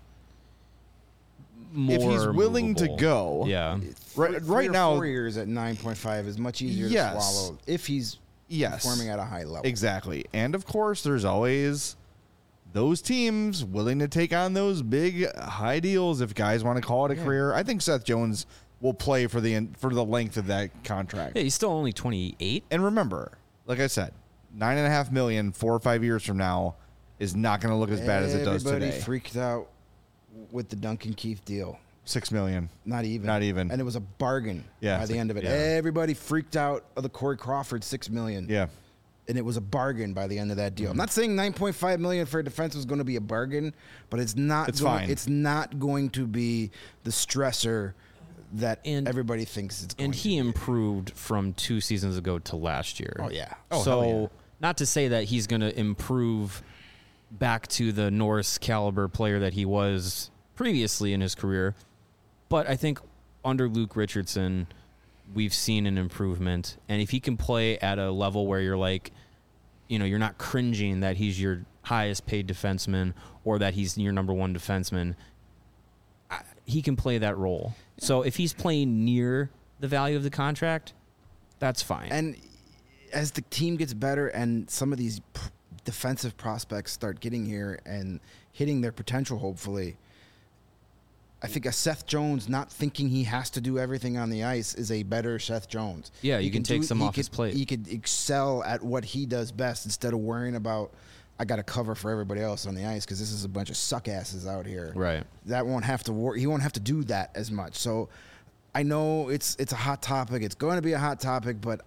If he's willing movable. to go, yeah. Right now, 4 years at 9.5 is much easier to swallow if he's performing at a high level. Exactly, and of course, there's always those teams willing to take on those big high deals if guys want to call it a career. I think Seth Jones will play for the length of that contract. Yeah, he's still only 28. And remember, like I said, $9.5 million 4 or 5 years from now is not going to look as bad as it does today. Everybody freaked out with the Duncan Keith deal. $6 million. Not even. And it was a bargain by the end of it. Yeah. Everybody freaked out of the Corey Crawford $6 million. Yeah. And it was a bargain by the end of that deal. I'm not saying $9.5 million for a defense was going to be a bargain, but it's not. Fine. It's not going to be the stressor that everybody thinks it's going to be. And he improved from 2 seasons ago to last year. Oh, yeah. So not to say that he's going to improve back to the Norris caliber player that he was previously in his career, but I think under Luke Richardson, we've seen an improvement. And if he can play at a level where you're like, you're not cringing that he's your highest paid defenseman or that he's your number 1 defenseman, he can play that role. Yeah. So if he's playing near the value of the contract, that's fine. And as the team gets better and some of these defensive prospects start getting here and hitting their potential, hopefully, I think a Seth Jones not thinking he has to do everything on the ice is a better Seth Jones. Yeah, you can take some off his plate. He could excel at what he does best instead of worrying about, I got to cover for everybody else on the ice because this is a bunch of suck asses out here. Right. That won't have to worry. He won't have to do that as much. So I know it's a hot topic. It's going to be a hot topic, but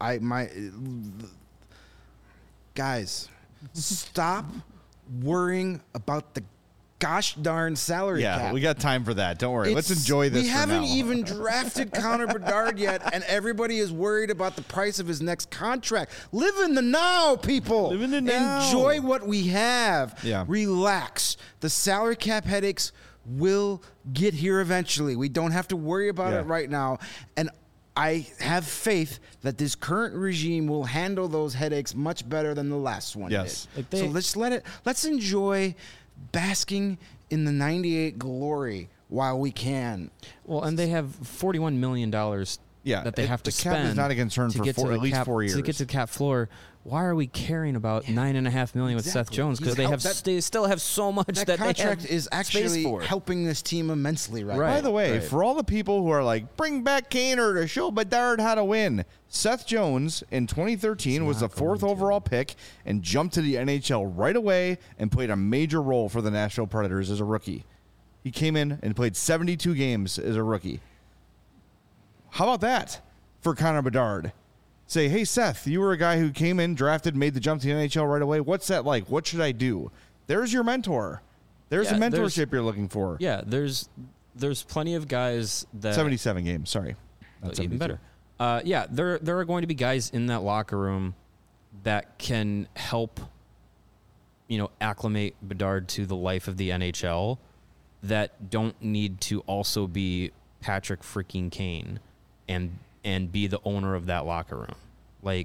guys, stop worrying about the gosh darn salary cap. Yeah, we got time for that. Don't worry. Let's enjoy this. We for haven't now. even drafted Connor Bedard yet, and everybody is worried about the price of his next contract. Live in the now, people. Live in the now. Enjoy what we have. Yeah. Relax. The salary cap headaches will get here eventually. We don't have to worry about it right now. And I have faith that this current regime will handle those headaches much better than the last one Yes. did. So let's enjoy basking in the 98 glory while we can. Well, and they have $41 million that they have to the cap spend. is not a concern to for get to at the least cap, 4 years. To get to the cap floor. Why are we caring about $9.5 million with Seth Exactly. Jones? Because they still have so much That that contract they have is actually space for. helping this team immensely right Right. now. By the way, Right. for all the people who are like, bring back Kaner to show Bedard how to win, Seth Jones in 2013 was the 4th overall pick and jumped to the NHL right away and played a major role for the Nashville Predators as a rookie. He came in and played 72 games as a rookie. How about that for Connor Bedard? Say, hey, Seth, you were a guy who came in, drafted, made the jump to the NHL right away. What's that like? What should I do? There's your mentor. There's Yeah, the there's- mentorship you're looking for. Yeah, there's plenty of guys that 77 games, sorry. Not even 72. better. Yeah, there are going to be guys in that locker room that can help, acclimate Bedard to the life of the NHL that don't need to also be Patrick freaking Kane and be the owner of that locker room. Like,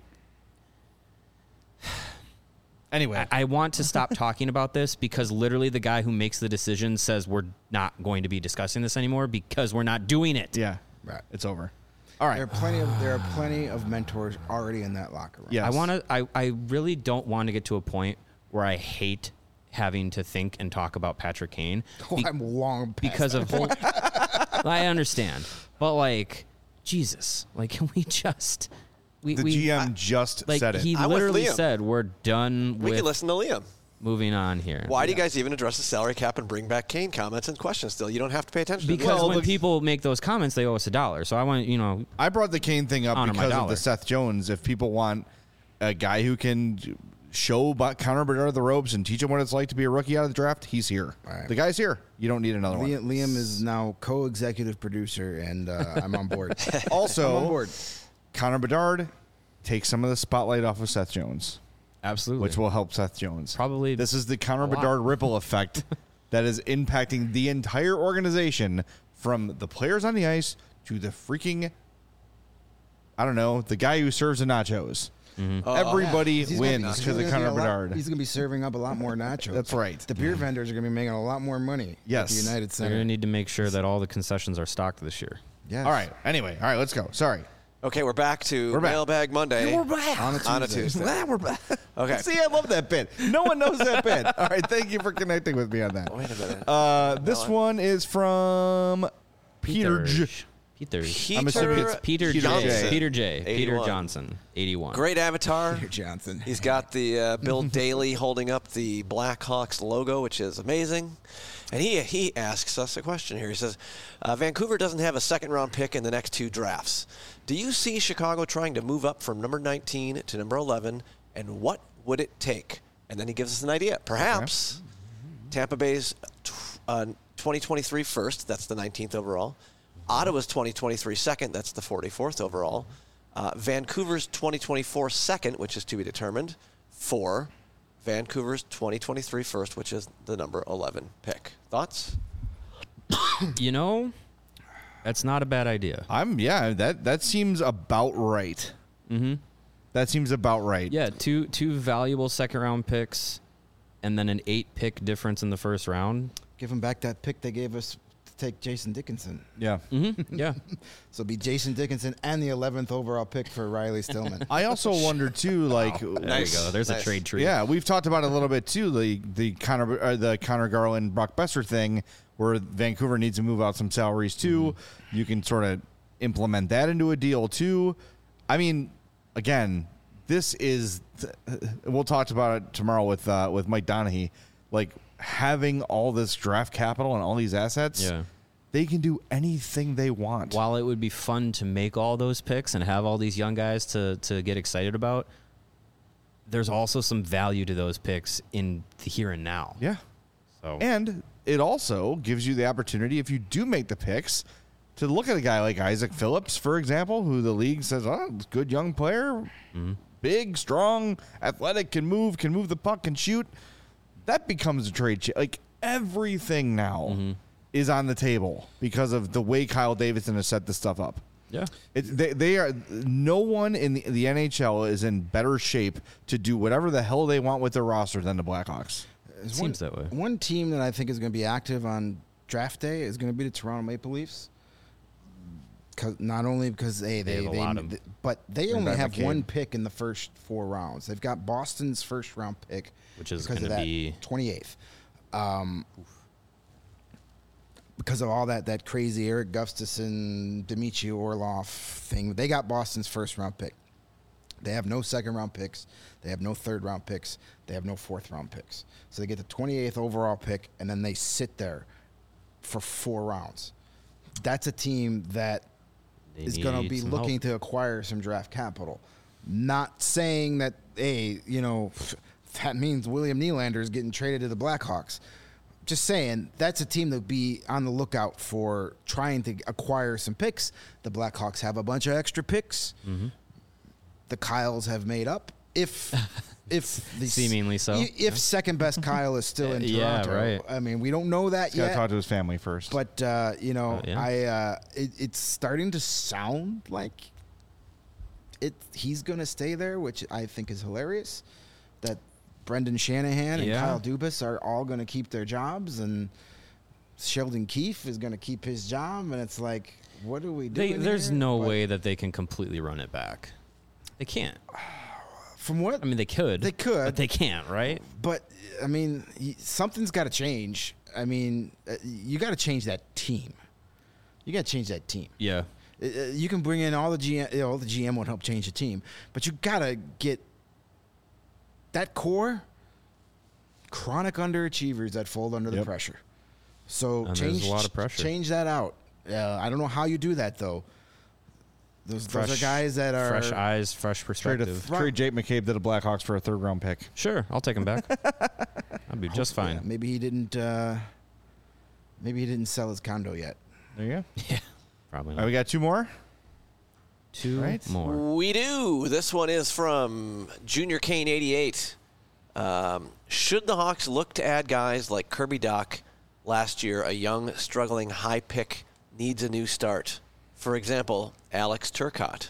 Anyway, I want to stop talking about this because literally the guy who makes the decision says we're not going to be discussing this anymore because we're not doing it. yeah, Right. it's over. All right. There are plenty of mentors already in that locker room. Yes. I really don't want to get to a point where I hate having to think and talk about Patrick Kane I'm long past because of I understand, but like Jesus, like can we just The GM just like said it. he I'm with literally Liam. said we're done We with can listen to Liam. moving on here. Why do you guys even address the salary cap and bring back Kane comments and questions still? You don't have to pay attention to Because them. when people make those comments, they owe us $1. So I want I brought the Kane thing up Honor my because of dollar. the Seth Jones. If people want a guy who can show Connor Bedard the ropes and teach him what it's like to be a rookie out of the draft, he's here. Right. The guy's here. You don't need another one. Liam is now co-executive producer, and I'm on board. Also, I'm on board. Connor Bedard takes some of the spotlight off of Seth Jones, absolutely. which will help Seth Jones. Probably This is the Connor a lot. Bedard ripple effect that is impacting the entire organization from the players on the ice to the freaking, I don't know, the guy who serves the nachos. Everybody He's wins gonna because be of Connor a lot- Bedard. He's going to be serving up a lot more nachos. That's right. The beer vendors are going to be making a lot more money. Yes. At the United They're Center. going to need to make sure that all the concessions are stocked this year. Yes. All right. Anyway, all right, let's go. Sorry. Okay, we're back to back. Mailbag Monday. We're back. On a Tuesday. We're back. Okay. See, I love that bit. No one knows that bit. All right. Thank you for connecting with me on that. Wait a minute. This one is from Peter J. I'm assuming it's Peter Johnson. J. Peter J. Peter 81. Johnson, 81. Great avatar. Peter Johnson. He's got the Bill Daly holding up the Blackhawks logo, which is amazing. And he asks us a question here. He says, Vancouver doesn't have a second-round pick in the next 2 drafts. Do you see Chicago trying to move up from number 19 to number 11, and what would it take? And then he gives us an idea. Perhaps Tampa Bay's 2023 first, that's the 19th overall. Ottawa's 2023 second, that's the 44th overall. Vancouver's 2024 second, which is to be determined, for Vancouver's 2023 first, which is the number 11 pick. Thoughts? That's not a bad idea. That seems about right. Mm-hmm. That seems about right. Yeah, two valuable second-round picks and then an 8-pick difference in the first round. Give him back that pick they gave us to take Jason Dickinson. Yeah. Yeah. So it'll be Jason Dickinson and the 11th overall pick for Riley Stillman. I also wonder too, like, There Nice. you go. There's Nice. a trade tree. yeah, we've talked about it a little bit too, the Connor Garland, Brock Besser thing, where Vancouver needs to move out some salaries too. You can sort of implement that into a deal too. I mean, again, this is we'll talk about it tomorrow with Mike Donahue. Like, having all this draft capital and all these assets, Yeah. they can do anything they want. While it would be fun to make all those picks and have all these young guys to get excited about, there's also some value to those picks in the here and now. Yeah. So And it also gives you the opportunity, if you do make the picks, to look at a guy like Isaac Phillips, for example, who the league says, oh, good young player, big, strong, athletic, can move the puck, can shoot. That becomes a trade. Like, everything now is on the table because of the way Kyle Davidson has set this stuff up. yeah. They are, no one in the NHL is in better shape to do whatever the hell they want with their roster than the Blackhawks. There's Seems that way. One team that I think is going to be active on draft day is going to be the Toronto Maple Leafs. Not only because they have a lot of- but they Bring only back have McCabe. one pick in the first 4 rounds. They've got Boston's first round pick, Which is because of gonna that, be 28th. Because of all that crazy Eric Gustafson, Dmitry Orlov thing, they got Boston's first round pick. They have no second round picks. They have no third round picks. They have no fourth round picks. So they get the 28th overall pick, and then they sit there for 4 rounds. That's a team that They is going to need be some looking help. to acquire some draft capital. Not saying that, hey, that means William Nylander is getting traded to the Blackhawks. Just saying, that's a team to be on the lookout for, trying to acquire some picks. The Blackhawks have a bunch of extra picks. The Kyles have made up. If the Seemingly so. If second best Kyle is still in Yeah, Toronto, right. I mean, we don't know that He's got to yet. talk to his family first. But yeah. it's starting to sound like he's going to stay there, which I think is hilarious. That Brendan Shanahan and Yeah. Kyle Dubas are all going to keep their jobs, and Sheldon Keefe is going to keep his job, and it's like, what are we doing? There's here? no But way that they can completely run it back. They can't. From what I mean, they could. They could. But they can't, right? But I mean, something's got to change. I mean, you got to change that team. You got to change that team. Yeah. You can bring in all the GM. All the GM won't help change the team, but you got to get that core. Chronic underachievers that fold under the Yep. pressure. So And change there's a lot of pressure. Change that out. I don't know how you do that though. Those are guys that are fresh eyes, fresh perspective. Trade Jake McCabe to the Blackhawks for a 3rd round pick. Sure, I'll take him back. I'll be just fine. Yeah, maybe he didn't. Maybe he didn't sell his condo yet. There you go. Yeah, probably All not. right, we got 2 more. 2 right. more. We do. This one is from Junior Kane 88. Should the Hawks look to add guys like Kirby Dach last year, a young, struggling high pick needs a new start? For example, Alex Turcotte.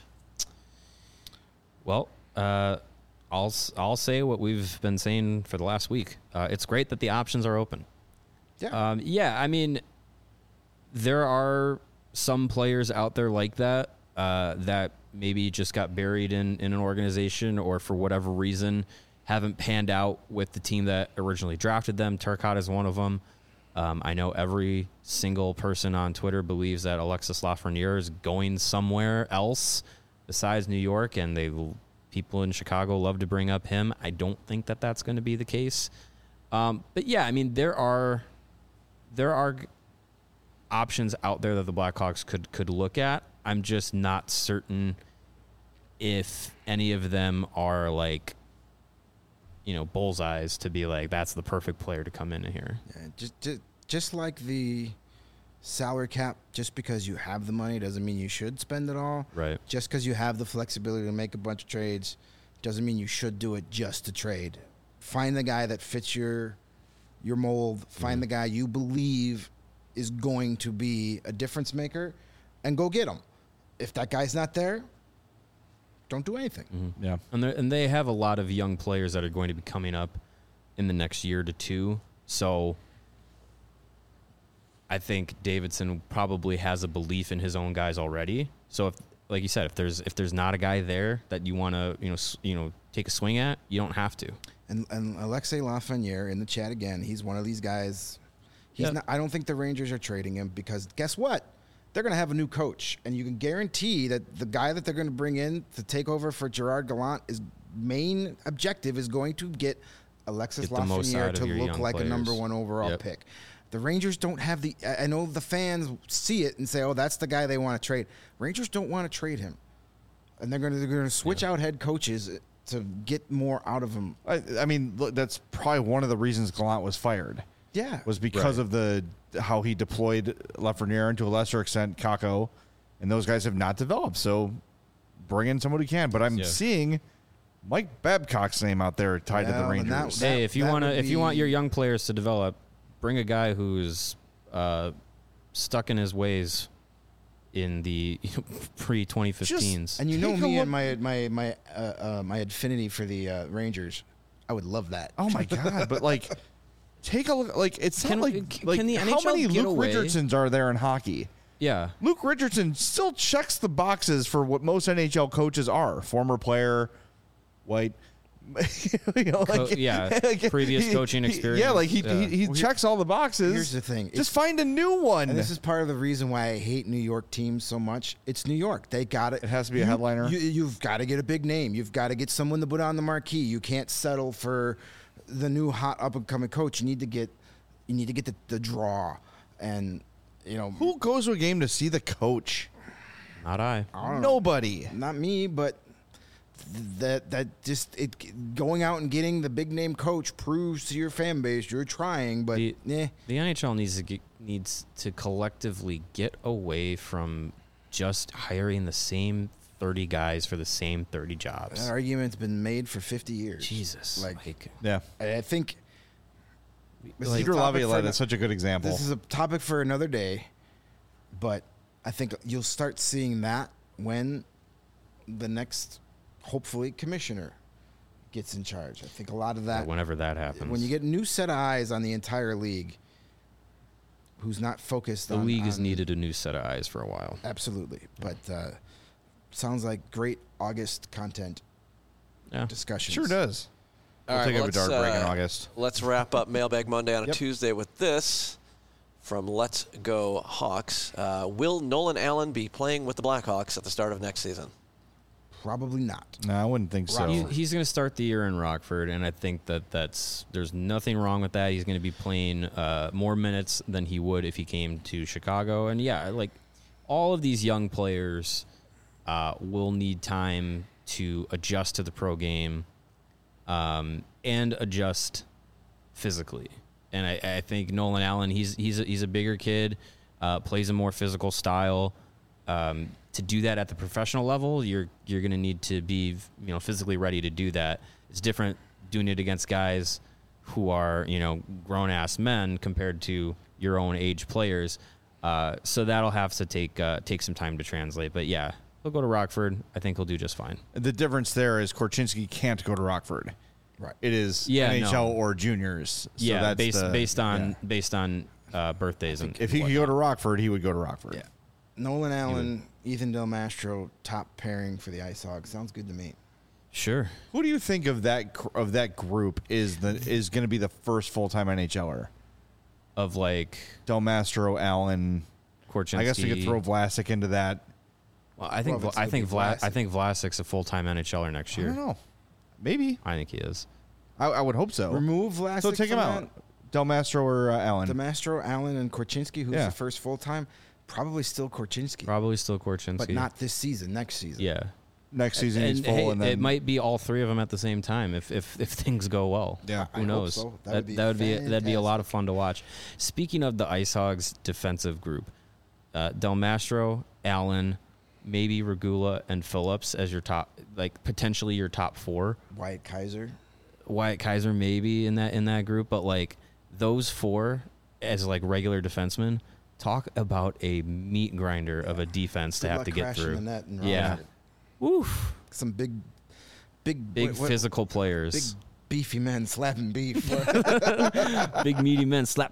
Well, I'll say what we've been saying for the last week. It's great that the options are open. Yeah. I mean, there are some players out there like that that maybe just got buried in an organization or for whatever reason haven't panned out with the team that originally drafted them. Turcotte is one of them. I know every single person on Twitter believes that Alexis Lafreniere is going somewhere else besides New York, and people in Chicago love to bring up him. I don't think that that's going to be the case. But yeah, I mean, there are options out there that the Blackhawks could look at. I'm just not certain if any of them are like, bullseyes to be like, that's the perfect player to come in here. Yeah, just like the salary cap, just because you have the money doesn't mean you should spend it all. Right. Just because you have the flexibility to make a bunch of trades doesn't mean you should do it just to trade. Find the guy that fits your mold. Find the guy you believe is going to be a difference maker, and go get him. If that guy's not there, don't do anything. Yeah. And they have a lot of young players that are going to be coming up in the next year to two. So I think Davidson probably has a belief in his own guys already. So if, like you said, if there's not a guy there that you want to take a swing at, you don't have to. And Alexei Lafreniere in the chat again. He's one of these guys. He's Yep. not. I don't think the Rangers are trading him because guess what? They're going to have a new coach, and you can guarantee that the guy that they're going to bring in to take over for Gerard Gallant, his main objective is going to get Alexis Get the most Lafreniere out of to your look young like a players. number 1 overall Yep. pick. The Rangers don't have the. I know the fans see it and say, "Oh, that's the guy they want to trade." Rangers don't want to trade him, and they're going to switch out head coaches to get more out of him. I mean, look, that's probably one of the reasons Gallant was fired. Yeah, Was because of how he deployed Lafreniere and to a lesser extent Kakko, and those guys have not developed. So bring in someone who can. But I'm Yeah. seeing Mike Babcock's name out there tied to the Well, and Rangers. that- Hey, if you want would if you want be- your young players to develop, bring a guy who's stuck in his ways in the pre 2015s. And you know Take a me and look- my affinity for the Rangers. I would love that. Oh my god! But like, take a look. Like, it's Can- not like can the how NHL many get Luke away? Richardsons are there in hockey? Yeah. Luke Richardson still checks the boxes for what most NHL coaches are: former player, white. Previous coaching experience. Yeah, like he Well, checks all the boxes. here's the thing. Just find a new one. And this is part of the reason why I hate New York teams so much. It's New York. They got it. It has to be a headliner. You've got to get a big name. You've got to get someone to put on the marquee. You can't settle for the new hot up and coming coach. You need to get the draw. And Who goes to a game to see the coach? Not I. Nobody. not me, but going out and getting the big name coach proves to your fan base you're trying. But The NHL needs to collectively get away from just hiring the same 30 guys for the same 30 jobs. that argument's been made for 50 years. Jesus. Like, Yeah. I think this is a Peter topic for Laviolette ano- is such a good example. This is a topic for another day, but I think you'll start seeing that when the next, hopefully, commissioner gets in charge. I think a lot of that, Whenever that happens. when you get a new set of eyes on the entire league, who's not focused the on... league has on- needed a new set of eyes for a while. Absolutely. But sounds like great August content Yeah. discussions. Sure does. All We'll right, take well, a dart break in let's, August. Let's wrap up Mailbag Monday on a Yep. Tuesday with this from Let's Go Hawks. Will Nolan Allen be playing with the Blackhawks at the start of next season? Probably not. No, I wouldn't think so. He's going to start the year in Rockford, and I think there's nothing wrong with that. He's going to be playing more minutes than he would if he came to Chicago. And yeah, like all of these young players will need time to adjust to the pro game and adjust physically. And I think Nolan Allen, he's a bigger kid, plays a more physical style. To do that at the professional level, you're going to need to be physically ready to do that. It's different doing it against guys who are grown ass men compared to your own age players. So that'll have to take some time to translate. But yeah, he'll go to Rockford. I think he'll do just fine. The difference there is Korchinski can't go to Rockford. Right. It is Yeah, NHL no. or juniors. So Yeah, that's based on birthdays and If he could go to Rockford, he would go to Rockford. Yeah. Nolan Allen, Ethan Del Mastro, top pairing for the Ice Hogs. Sounds good to me. Sure. Who do you think of that group is going to be the first full-time NHLer? Of like Del Mastro, Allen. Korchinski. I guess we could throw Vlasic into that. Well, I think Well, I it's think gonna be Vlasic. I think Vlasic's a full-time NHLer next I year. don't know. Maybe. I think he is. I would hope so. Remove Vlasic So take him from out. that. Del Mastro or Allen. Del Mastro, Allen, and Korchinski, who's Yeah. the first full-time. Probably still Korchinski, Probably still Korchinski. but not this season, next season. Yeah. Next season he's full, hey, and then it might be all three of them at the same time if things go well. Yeah. Who I hope knows? so. That'd be a lot of fun to watch. Speaking of the Ice Hogs defensive group, Del Mastro, Allen, maybe Regula and Phillips as your top, like potentially your top four. Wyatt Kaiser. Wyatt Kaiser maybe in that group, but like those four as like regular defensemen. Talk about a meat grinder of a defense to Good have luck to get crashing through. the net and Yeah. Rockford. Oof. Some big Physical big players. beefy men slapping beef. Big meaty men slapping meat.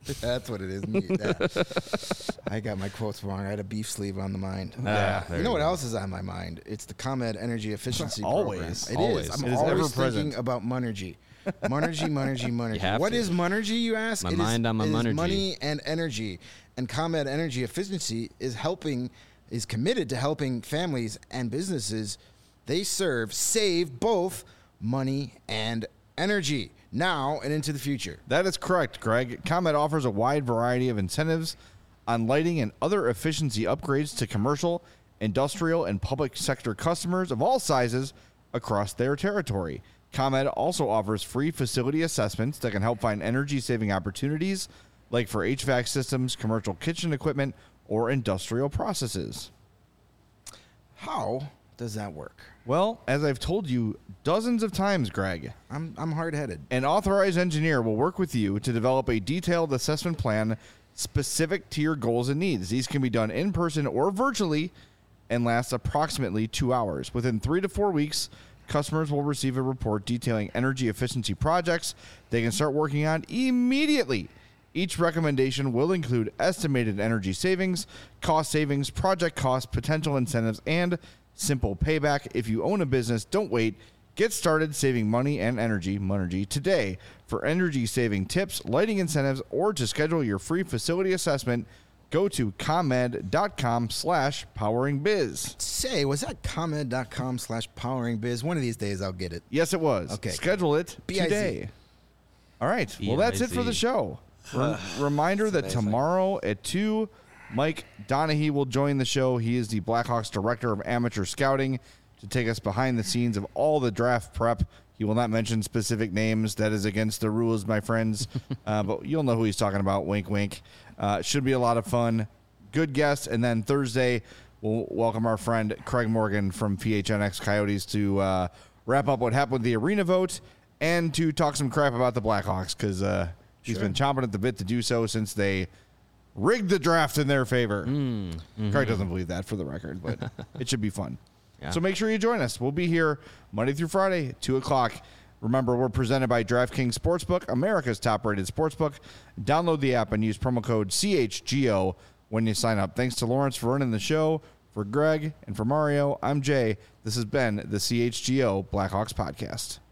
That's what it is. I got my quotes wrong. I had a beef sleeve on the mind. You know what else is on my mind? It's the ComEd Energy Efficiency Always. Program. It is. I'm It is always ever-present. thinking about Monergy. Monergy. What is Monergy, you ask? My It mind on my it is Monergy. money and energy. And ComEd Energy Efficiency is committed to helping families and businesses they serve save both money and energy now and into the future. That is correct, Greg. ComEd offers a wide variety of incentives on lighting and other efficiency upgrades to commercial, industrial, and public sector customers of all sizes across their territory. ComEd also offers free facility assessments that can help find energy-saving opportunities, like for HVAC systems, commercial kitchen equipment, or industrial processes. How does that work? Well, as I've told you dozens of times, Greg, I'm hard-headed. an authorized engineer will work with you to develop a detailed assessment plan specific to your goals and needs. These can be done in person or virtually and last approximately 2 hours. Within 3 to 4 weeks, customers will receive a report detailing energy efficiency projects they can start working on immediately. Each recommendation will include estimated energy savings, cost savings, project costs, potential incentives, and simple payback. If you own a business, don't wait. Get started saving money and energy, Monergy, today. For energy saving tips, lighting incentives, or to schedule your free facility assessment, go to ComEd.com/poweringbiz. Say, was that ComEd.com/poweringbiz? One of these days I'll get it. Yes, it was. Okay. Schedule it B-I-Z. today. All right. Well, that's it for the show. Reminder that amazing. tomorrow at 2, Mike Donahue will join the show. He is the Blackhawks Director of Amateur Scouting to take us behind the scenes of all the draft prep. He will not mention specific names. That is against the rules, my friends. But you'll know who he's talking about. Wink, wink. Should be a lot of fun. Good guest. And then Thursday, we'll welcome our friend Craig Morgan from PHNX Coyotes to wrap up what happened with the arena vote and to talk some crap about the Blackhawks because he's been chomping at the bit to do so since they rigged the draft in their favor. Craig doesn't believe that, for the record, but it should be fun. Yeah. So make sure you join us. We'll be here Monday through Friday at 2 o'clock. Remember, we're presented by DraftKings Sportsbook, America's top-rated sportsbook. Download the app and use promo code CHGO when you sign up. Thanks to Lawrence for running the show. For Greg and for Mario, I'm Jay. This has been the CHGO Blackhawks Podcast.